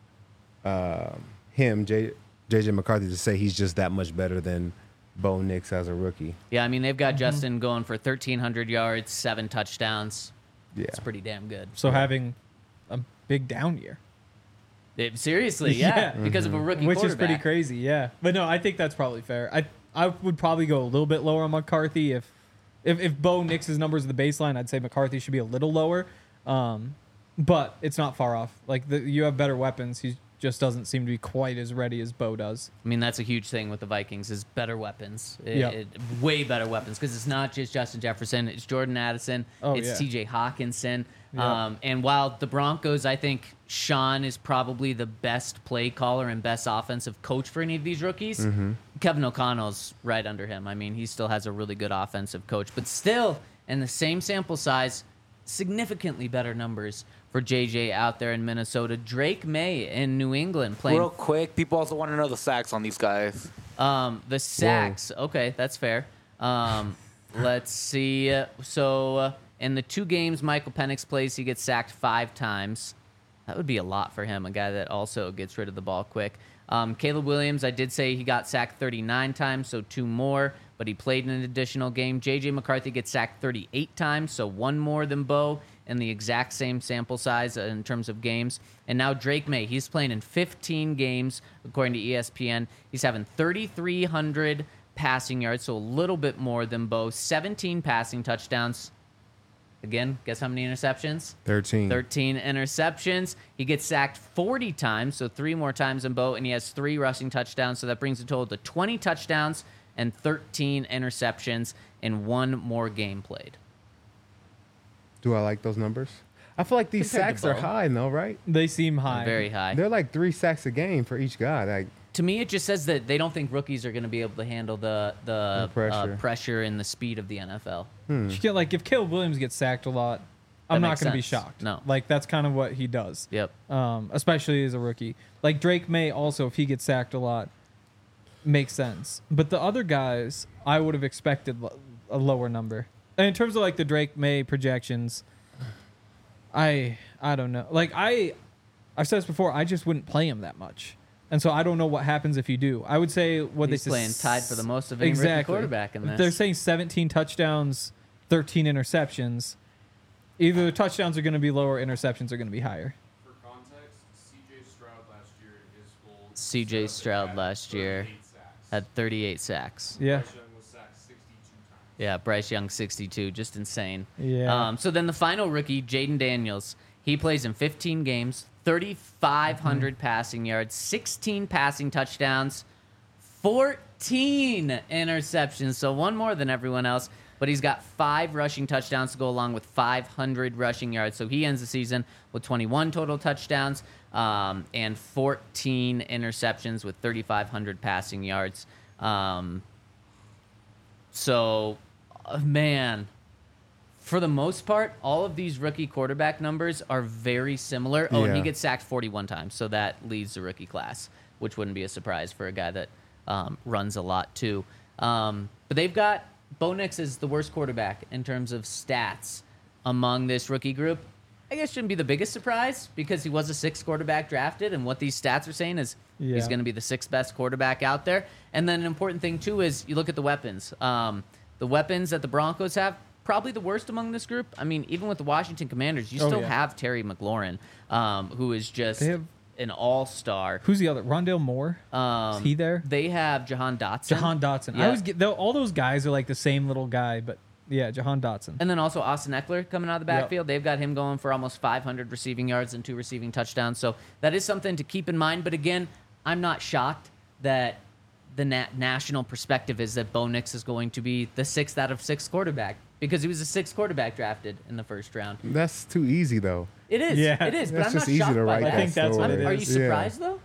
him, JJ McCarthy, to say he's just that much better than Bo Nix as a rookie. Yeah, I mean, they've got Justin going for 1,300 yards, 7 touchdowns. Yeah. It's pretty damn good. So having a big down year, Seriously, Yeah. because of a rookie which is quarterback. pretty crazy. Yeah, but no, I think that's probably fair. I would probably go a little bit lower on McCarthy if Bo Nix's numbers are the baseline. I'd say McCarthy should be a little lower, but it's not far off. Like you have better weapons. He just doesn't seem to be quite as ready as Bo does. I mean, that's a huge thing with the Vikings is better weapons. Yeah. Way better weapons because it's not just Justin Jefferson. It's Jordan Addison. Oh, it's yeah. T.J. Hawkinson. Yeah. And while the Broncos, I think Sean is probably the best play caller and best offensive coach for any of these rookies. Kevin O'Connell's right under him. I mean, he still has a really good offensive coach. But still, in the same sample size, significantly better numbers for JJ out there in Minnesota. Drake May in New England playing Real quick, people also want to know the sacks on these guys. the sacks. Okay, that's fair. Let's see. So in the 2 games Michael Penix plays, he gets sacked 5 times. That would be a lot for him, a guy that also gets rid of the ball quick. Caleb Williams, I did say he got sacked 39 times, so 2 more, but he played in an additional game. J.J. McCarthy gets sacked 38 times, so 1 more than Bo in the exact same sample size in terms of games. And now Drake May, he's playing in 15 games, according to ESPN. He's having 3,300 passing yards, so a little bit more than Bo. 17 passing touchdowns. Again, guess how many interceptions? 13. 13 interceptions. He gets sacked 40 times, so 3 more times than Bo, and he has 3 rushing touchdowns, so that brings the total to 20 touchdowns and 13 interceptions in 1 more game played. Do I like those numbers? I feel like these Compared to sacks are Bo. high, though, right? They seem high. Very high. They're like 3 sacks a game for each guy. Like, To me, it just says that they don't think rookies are going to be able to handle the pressure. pressure and the speed of the NFL. You get, like if Caleb Williams gets sacked a lot, I'm not makes going to be sense. shocked. No. Like that's kind of what he does. Yep. Especially as a rookie. Like Drake May also, if he gets sacked a lot, makes sense. But the other guys, I would have expected a lower number. And in terms of like the Drake May projections, I don't know. Like I've said this before, I just wouldn't play him that much. And so I don't know what happens if you do. I would say what He's they playing tied for the most of any rookie quarterback in this. They're saying 17 touchdowns, 13 interceptions. Either the touchdowns are going to be lower, interceptions are going to be higher. For context, C.J. Stroud last year in his full C.J. setup, Stroud had last year 38 sacks. had 38 sacks. Yeah. Bryce Young was sacked 62 times. Yeah, Bryce Young 62, just insane. Yeah. So then the final rookie, Jaden Daniels, he plays in 15 games, 3,500 passing yards, 16 passing touchdowns, 14 interceptions, so 1 more than everyone else. But he's got 5 rushing touchdowns to go along with 500 rushing yards. So he ends the season with 21 total touchdowns and 14 interceptions with 3,500 passing yards. Man, for the most part, all of these rookie quarterback numbers are very similar. Oh, and he Yeah. gets sacked 41 times, so that leads the rookie class, which wouldn't be a surprise for a guy that runs a lot too. But they've got Bo Nix is the worst quarterback in terms of stats among this rookie group. I guess shouldn't be the biggest surprise because he was a 6th quarterback drafted, and what these stats are saying is he's Yeah. going to be the 6th best quarterback out there. And then an important thing too is you look at the weapons. The weapons that the Broncos have, probably the worst among this group. I mean, even with the Washington Commanders, you Oh, still yeah. have Terry McLaurin, who is just They have- an all-star. Who's the other? Rondale Moore? Is he there? They have Jahan Dotson. Jahan Dotson. Yeah. I always get all those guys are like the same little guy, but yeah, Jahan Dotson. And then also Austin Eckler coming out of the Yep. backfield. They've got him going for almost 500 receiving yards and 2 receiving touchdowns. So that is something to keep in mind. But again, I'm not shocked that the national perspective is that Bo Nix is going to be the 6th out of 6 quarterback because he was the 6th quarterback drafted in the 1st round. that's too easy, though. It is. Yeah. It is. But That's I'm just not easy shocked to by write that. I think that's what it Are is. you surprised though?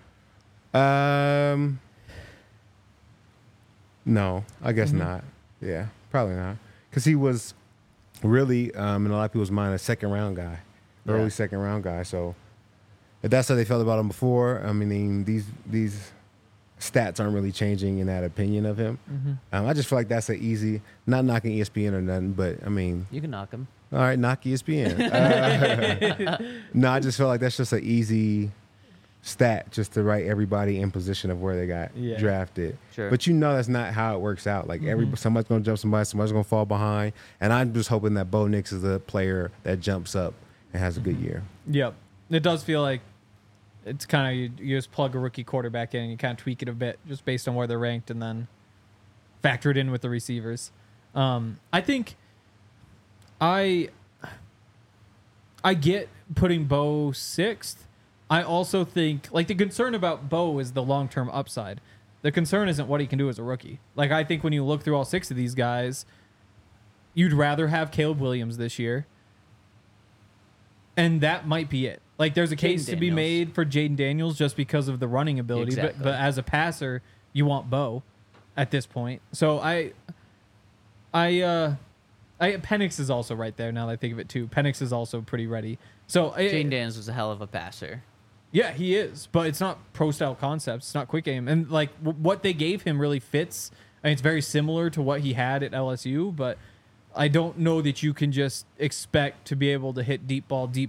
No, I guess not. Yeah, probably not. Because he was really, in a lot of people's mind, a 2nd-round guy, early Yeah. 2nd-round guy. So if that's how they felt about him before, I mean, these stats aren't really changing in that opinion of him. I just feel like that's an easy, not knocking ESPN or nothing, but I mean, You can knock him. all right, knock ESPN. No, I just feel like that's just an easy stat just to write everybody in position of where they got drafted. Sure. But that's not how it works out. Like somebody's gonna jump somebody's gonna fall behind. And I'm just hoping that Bo Nix is a player that jumps up and has a good year. Yep. It does feel like it's kind of you just plug a rookie quarterback in and you kind of tweak it a bit just based on where they're ranked and then factor it in with the receivers. I think I get putting Bo sixth. I also think like the concern about Bo is the long-term upside. The concern isn't what he can do as a rookie. Like I think when you look through all 6 of these guys, you'd rather have Caleb Williams this year. And that might be it. Like there's a case to be made for Jaden Daniels just because of the running ability, Exactly. but as a passer, you want Bo at this point. So Penix is also right there now that I think of it too. Penix is also pretty ready. So Jaden Daniels was a hell of a passer. yeah, he is, but it's not pro style concepts. It's not quick game, and like what they gave him really fits. I mean, it's very similar to what he had at LSU, but I don't know that you can just expect to be able to hit deep ball in the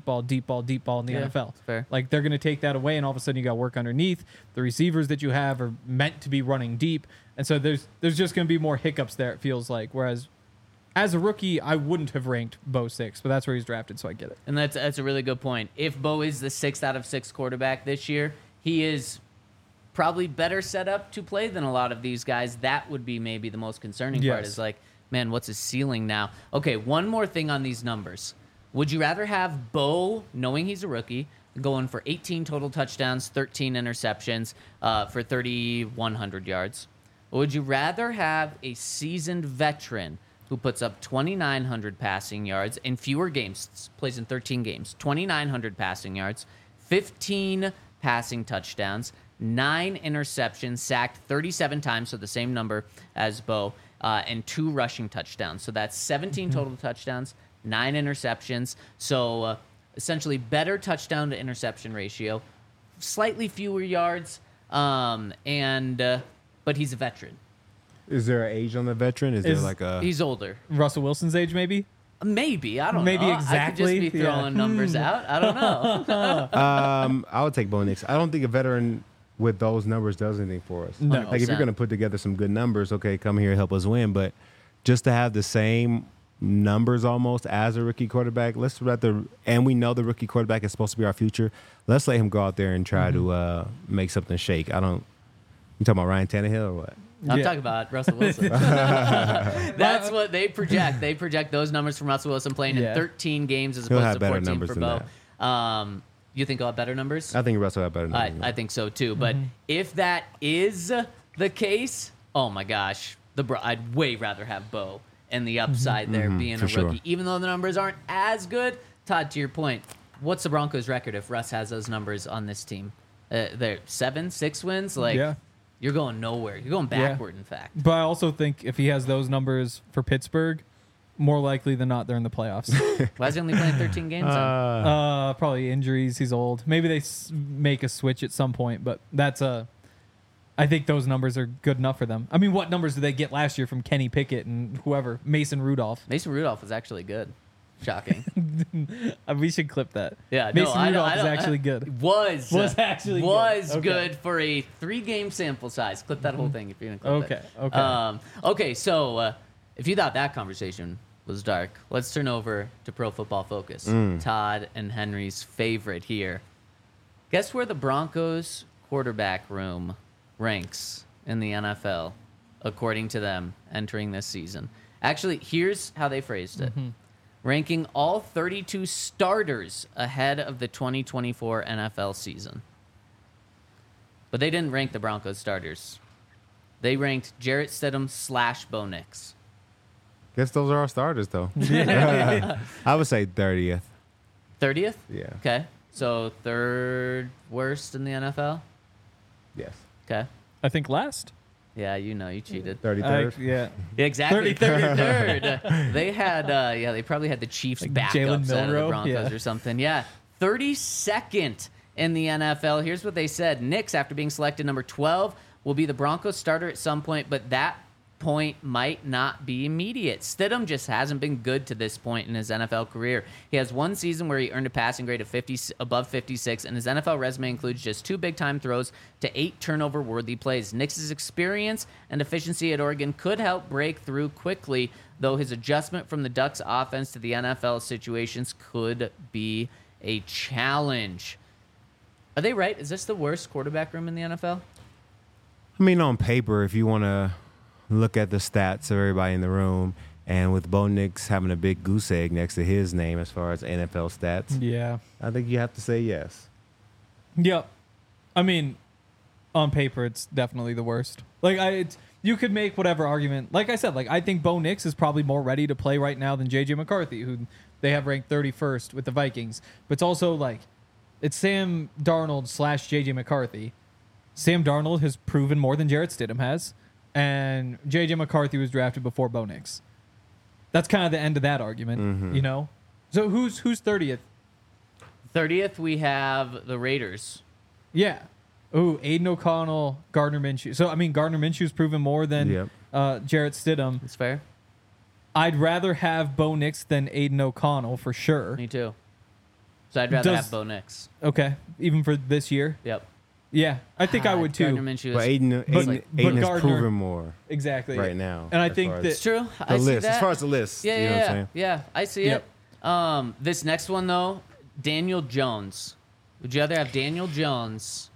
NFL. That's fair. Like they're going to take that away, and all of a sudden you got work underneath. The receivers that you have are meant to be running deep, and so there's just going to be more hiccups there. It feels like. Whereas as a rookie, I wouldn't have ranked Bo 6, but that's where he's drafted, so I get it. And that's a really good point. If Bo is the 6th out of 6 quarterback this year, he is probably better set up to play than a lot of these guys. That would be maybe the most concerning part Yes. is like, man, what's his ceiling now? Okay, one more thing on these numbers. Would you rather have Bo, knowing he's a rookie, going for 18 total touchdowns, 13 interceptions for 3,100 yards? Or would you rather have a seasoned veteran who puts up 2,900 passing yards in fewer games, plays in 13 games, 2,900 passing yards, 15 passing touchdowns, 9 interceptions, sacked 37 times, so the same number as Bo, and 2 rushing touchdowns. So that's 17 total touchdowns, 9 interceptions. So essentially better touchdown to interception ratio, slightly fewer yards, but he's a veteran. Is there an age on the veteran? Is there like a... He's older. Russell Wilson's age, maybe? Maybe. I don't Maybe know. exactly. I could just be throwing numbers out. I don't know. I would take Bo Nix. I don't think a veteran with those numbers does anything for us. No. Like if you're 100%. going to put together some good numbers, okay, come here and help us win. But just to have the same numbers almost as a rookie quarterback, and we know the rookie quarterback is supposed to be our future. Let's let him go out there and try to make something shake. You talking about Ryan Tannehill or what? I'm Yeah. talking about Russell Wilson. That's what they project. They project those numbers from Russell Wilson playing in 13 games as He'll opposed have to better 14 numbers for than Bo. You think he'll have better numbers? I think Russell had better numbers. than I that. think so too. But if that is the case, oh my gosh, I'd way rather have Bo and the upside there being for a sure. rookie, even though the numbers aren't as good. Todd, to your point, what's the Broncos' record if Russ has those numbers on this team? They're 6 wins. Like Yeah. you're going nowhere. You're going Yeah. backward. In fact. But I also think if he has those numbers for Pittsburgh, more likely than not, they're in the playoffs. Why is he only playing 13 games? Then? Probably injuries. He's old. Maybe they make a switch at some point, but I think those numbers are good enough for them. I mean, what numbers did they get last year from Kenny Pickett and whoever? Mason Rudolph. Mason Rudolph was actually good. Shocking. We should clip that. Yeah, Mason no, Rudolph I is don't- actually good. Was actually was good. good, Okay. for a 3-game sample size. Clip that whole thing if you're gonna clip it. Okay. Okay. So if you thought that conversation was dark, let's turn over to Pro Football Focus. Todd and Henry's favorite here. Guess where the Broncos quarterback room ranks in the NFL, according to them, entering this season? Actually, here's how they phrased it. Ranking all 32 starters ahead of the 2024 NFL season. But they didn't rank the Broncos starters. They ranked Jarrett Stidham / Bo Nix. Guess those are our starters, though. I would say 30th. 30th? Yeah. Okay. So 3rd worst in the NFL? Yes. Okay. I think last. Yeah, you cheated. 33rd. Yeah. Yeah, exactly. 33rd. 33rd. They had, they probably had the Chiefs Like backups Jalen out of the Milroe? Broncos Yeah. or something. Yeah. 32nd in the NFL. Here's what they said. Nix, after being selected number 12 will be the Broncos starter at some point, but that point might not be immediate. Stidham just hasn't been good to this point in his NFL career. He has one season where he earned a passing grade of above 56, and his NFL resume includes just 2 big-time throws to 8 turnover-worthy plays. Nix's experience and efficiency at Oregon could help break through quickly, though his adjustment from the Ducks offense to the NFL situations could be a challenge. Are they right? Is this the worst quarterback room in the NFL? I mean, on paper, if you want to look at the stats of everybody in the room, and with Bo Nix having a big goose egg next to his name as far as NFL stats, Yeah. I think you have to say yes. Yep. I mean, on paper, it's definitely the worst. Like, you could make whatever argument. Like I said, like I think Bo Nix is probably more ready to play right now than J.J. McCarthy, who they have ranked 31st with the Vikings. But it's also like, it's Sam Darnold / J.J. McCarthy. Sam Darnold has proven more than Jarrett Stidham has, and J.J. McCarthy was drafted before Bo Nix. That's kind of the end of that argument, you know? So who's 30th? 30th, we have the Raiders. Yeah. Ooh, Aiden O'Connell, Gardner Minshew. So, I mean, Gardner Minshew's proven more than Jarrett Stidham. That's fair. I'd rather have Bo Nix than Aiden O'Connell for sure. Me too. So I'd rather have Bo Nix. Okay, even for this year? Yep. Yeah, I think I would too. Gardner Minshew But is, Aiden has Gardner- proven more Exactly. right now. And I as think far that as it's true. the I see list, that. as far as the list, Yeah, you know what I'm yeah, saying? yeah. I see Yep. it. This next one though, Daniel Jones. Would you rather have Daniel Jones?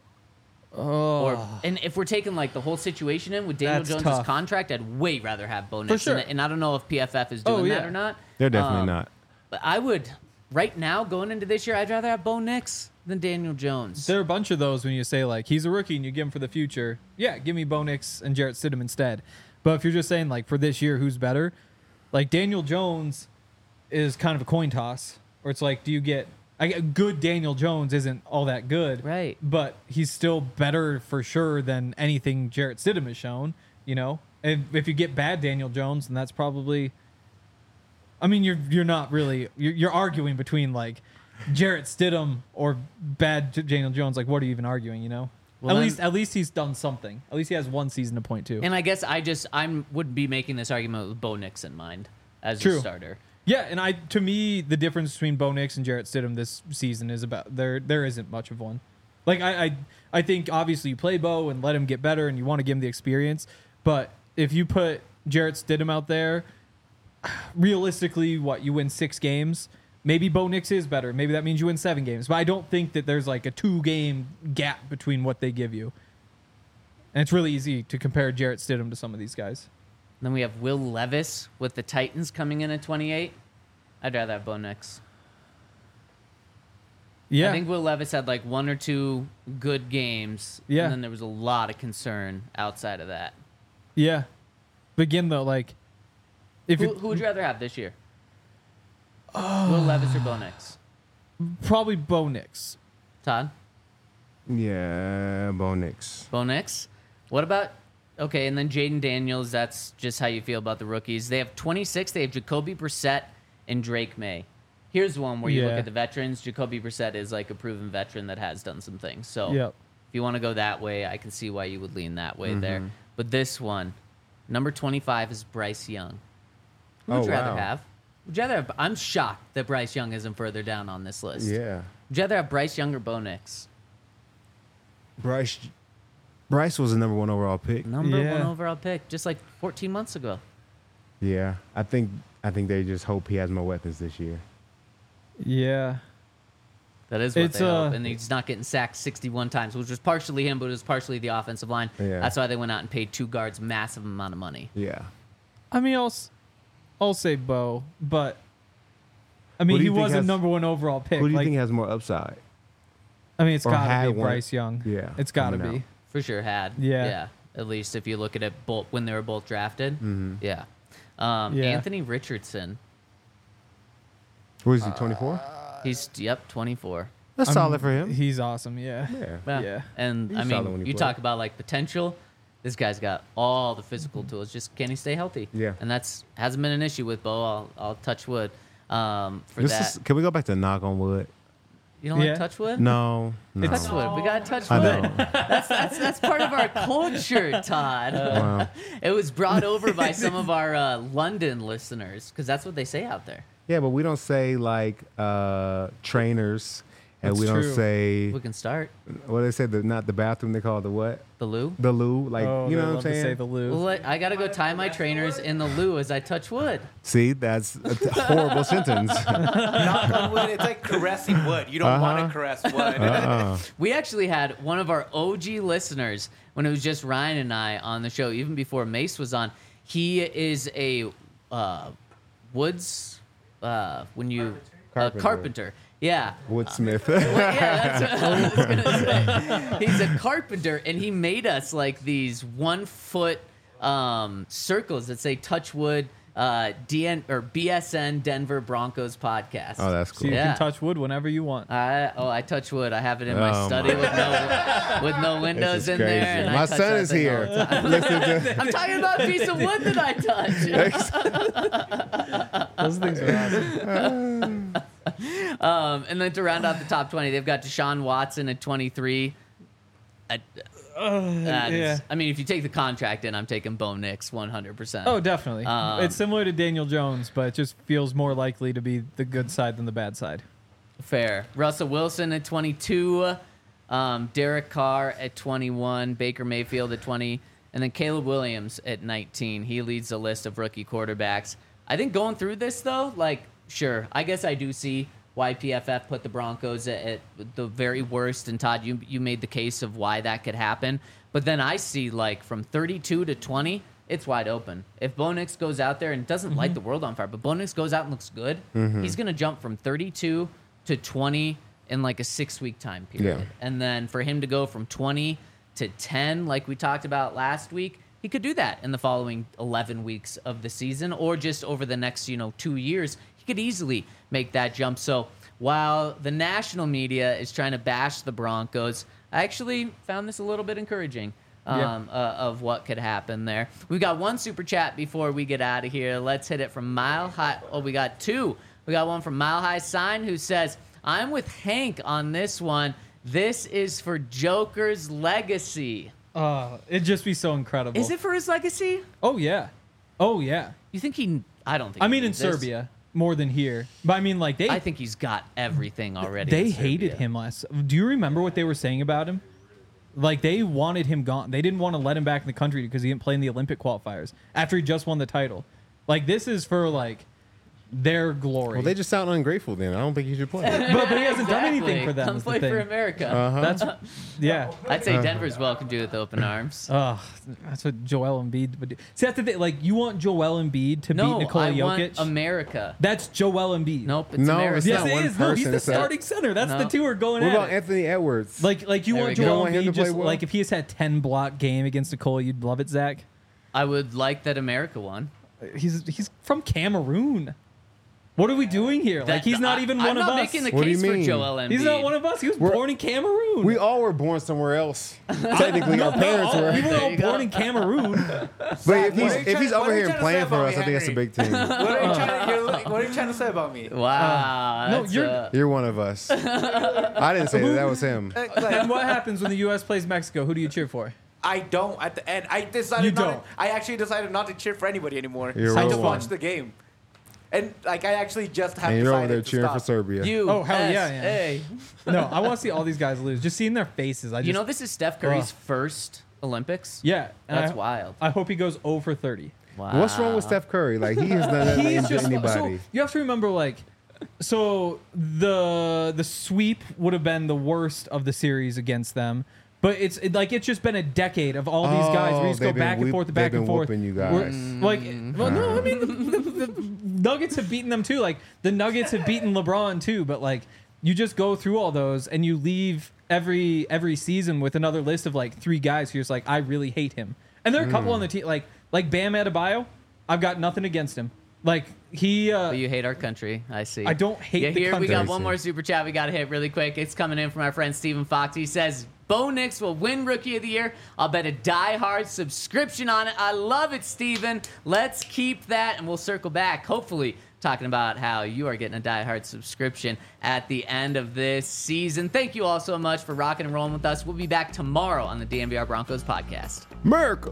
And if we're taking like the whole situation in with Daniel That's Jones' tough. contract, I'd way rather have Bo Nix. sure. And I don't know if PFF is doing that yeah. or not. They're definitely not. But I would, right now, going into this year, I'd rather have Bo Nix than Daniel Jones. there are a bunch of those when you say, like, he's a rookie and you give him for the future. Yeah, give me Bo Nix and Jarrett Stidham instead. But if you're just saying, like, for this year, who's better? Like, Daniel Jones is kind of a coin toss. Or it's like, do you get... good Daniel Jones isn't all that good. Right. But he's still better for sure than anything Jarrett Stidham has shown, you know? And if you get bad Daniel Jones, then that's probably... I mean, you're not really... You're arguing between, like, Jarrett Stidham or bad Daniel Jones. Like, what are you even arguing, you know? Well, at least he's done something. At least he has one season to point to. And I guess I would be making this argument with Bo Nix in mind as a starter. Yeah, and to me, the difference between Bo Nix and Jarrett Stidham this season is about there isn't much of one. Like I think obviously you play Bo and let him get better and you want to give him the experience, but if you put Jarrett Stidham out there, realistically, you win 6 games. Maybe Bo Nix is better. Maybe that means you win 7 games. But I don't think that there's like a 2-game gap between what they give you. And it's really easy to compare Jarrett Stidham to some of these guys. Then we have Will Levis with the Titans coming in at 28. I'd rather have Bo Nix. Yeah. I think Will Levis had like 1 or 2 good games. Yeah. And then there was a lot of concern outside of that. Yeah. But again, though, like... Who would you rather have this year? Will Levis or Bo Nix? Probably Bo Nix. Todd? Yeah, Bo Nix. Bo Nix? What about... Okay, and then Jaden Daniels, that's just how you feel about the rookies. They have 26. They have Jacoby Brissett and Drake May. Here's one where you look Yeah. at the veterans. Jacoby Brissett is like a proven veteran that has done some things. So Yep. if you want to go that way, I can see why you would lean that way there. But this one, number 25 is Bryce Young. Who would Oh, you rather wow. have? Would you rather have? I'm shocked that Bryce Young isn't further down on this list. Yeah. Would you rather have Bryce Young or Bo Nix? Bryce was the number 1 overall pick. Number Yeah. 1 overall pick, just like 14 months ago. Yeah, I think they just hope he has more weapons this year. Yeah. That is what It's, they hope. And he's not getting sacked 61 times, which was partially him, but it was partially the offensive line. Yeah. That's why they went out and paid 2 guards massive amount of money. Yeah. I mean, I'll say Bo, but I Who mean, do he you think was a has- number 1 overall pick. Who do you Like, think has more upside? I mean, it's or got to had be one? Bryce Young. Yeah, It's got to coming be. out. For sure had. Yeah. Yeah. At least if you look at it both when they were both drafted. Mm-hmm. Yeah. Yeah. Anthony Richardson. What is he, 24? He's, 24. That's solid for him. He's awesome. Yeah. Yeah. Yeah. And He's I solid when mean, he you plays. talk about like potential. This guy's got all the physical tools. Just can he stay healthy? Yeah. And that's hasn't been an issue with Bo. I'll touch wood for This that. is, can we go back to knock on wood? You don't Yeah. like Touchwood? No. Touchwood. We got I Touchwood. don't. That's part of our culture, Todd. Wow. It was brought over by some of our London listeners because that's what they say out there. Yeah, but we don't say like trainers, and That's we don't true. say We can start what they say. Not the bathroom. They call it the what? the loo. The loo. Like Oh, you they know what I'm love to saying? say the loo. Well, I gotta go tie my trainers in the loo as I touch wood. See, that's a horrible sentence. Not on wood. It's like caressing wood. You don't want to caress wood. We actually had one of our OG listeners when it was just Ryan and I on the show, even before Mace was on. He is a carpenter. Yeah. Woodsmith. Yeah, that's what I was gonna say. He's a carpenter, and he made us like these 1 foot circles that say Touchwood BSN Denver Broncos podcast. Oh, that's So cool. you Yeah. can touch wood whenever you want. I touch wood. I have it in my Oh, study my with no windows This is in crazy. there. And I My touch son that is thing all here. the time. Listen to. I'm talking about a piece of wood that I touch. Those things are awesome. And then to round out the top 20, they've got Deshaun Watson at 23. Yeah. I mean, if you take the contract in, I'm taking Bo Nix 100%. Oh, definitely. Um, It's similar to Daniel Jones, but it just feels more likely to be the good side than the bad side. Fair. Russell Wilson at 22. Derek Carr at 21. Baker Mayfield at 20. And then Caleb Williams at 19. He leads the list of rookie quarterbacks. I think going through this, though, like, sure, I guess I do see why PFF put the Broncos at the very worst. And Todd, you made the case of why that could happen. But then I see, like, from 32 to 20, it's wide open. If Bo Nix goes out there and doesn't light the world on fire, but Bo Nix goes out and looks good, he's going to jump from 32 to 20 in, like, a 6-week time period. Yeah. And then for him to go from 20 to 10, like we talked about last week, he could do that in the following 11 weeks of the season, or just over the next, 2 years. He could easily make that jump. So while the national media is trying to bash the Broncos, I actually found this a little bit encouraging of what could happen there. We've got one super chat before we get out of here. Let's hit it from Mile High. Oh, we got two. We got one from Mile High Sign who says, I'm with Hank on this one. This is for Joker's legacy. It'd just be so incredible. Is it for his legacy? Oh, yeah. Oh, yeah. You think he... I don't think I he mean, in needs this. Serbia more than here. But I mean, like, I think he's got everything already. they in hated Serbia. him last. Do you remember what they were saying about him? Like, they wanted him gone. They didn't want to let him back in the country because he didn't play in the Olympic qualifiers after he just won the title. Like, this is for, like, their glory. Well, they just sound ungrateful. Then I don't think you should play. but he hasn't done Exactly. anything for them. Come is the play for thing. America. That's yeah. I'd say Denver's welcome to it with open arms. That's what Joel Embiid would do. See, that's the thing. Like, you want Joel Embiid to No, beat Nikola I Jokic? want America. That's Joel Embiid. Nope, it's No, America. it's Yes, not it one is. No, he's person, the it's a- starting center. That's the No. two are going What at about it. Anthony Edwards? Like you There we want go. You don't Joel want him Embiid to play just well? like if he has had 10 block game against Nikola, you'd love it, Zach. I would like that America won. He's from Cameroon. What are we doing here? Like he's not even one I'm of not us. making the What do you case for mean? Joel Embiid. He's not one of us. He was born in Cameroon. We all were born somewhere else. Technically, our parents we were. were There all you go. born in Cameroon. But if he's over here playing for us, I think that's a big thing. What are you trying to say about me? Wow. No, that's, you're- You're one of us. I didn't say that. That was him. And what happens when the U.S. plays Mexico? Who do you cheer for? I don't. At the end, I decided You not. don't. I actually decided not to cheer for anybody anymore. You're I a just real one. watched the game, and like I actually just have And you're over decided there to cheering stop. for Serbia. Oh, hell yeah, USA. No, I want to see all these guys lose. Just seeing their faces. I just, You know, this is Steph Curry's first Olympics. yeah, and That's I, wild. I hope he goes 0 for 30. Wow. What's wrong with Steph Curry? Like he has done He's nothing to just anybody. so you have to remember like so the sweep would have been the worst of the series against them. But it's just been a decade of all these guys where you just go they've been back and forth, back they've and been forth. whooping you We're- guys. Like, well, no, I mean the Nuggets have beaten them too. Like the Nuggets have beaten LeBron too. But like you just go through all those and you leave every season with another list of like 3 guys who are just like I really hate him. And there are a couple on the team like Bam Adebayo. I've got nothing against him. Like he. But you hate our country. I see. I don't hate Yeah, the here we country. got one more super chat we got to hit really quick. It's coming in from our friend Stephen Fox. He says, Bo Nix will win Rookie of the Year. I'll bet a die-hard subscription on it. I love it, Stephen. Let's keep that, and we'll circle back, hopefully, talking about how you are getting a Die Hard subscription at the end of this season. Thank you all so much for rocking and rolling with us. We'll be back tomorrow on the DNVR Broncos podcast. America.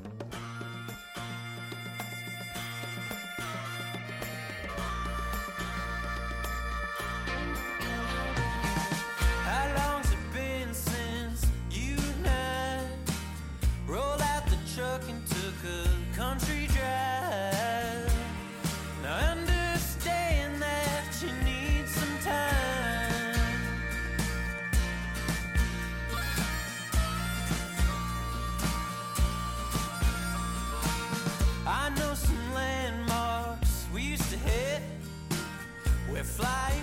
How long's it been since you and I rolled out the truck and took a country drive? Now I understand that you need some time. I know some landmarks we used to hit. We're flying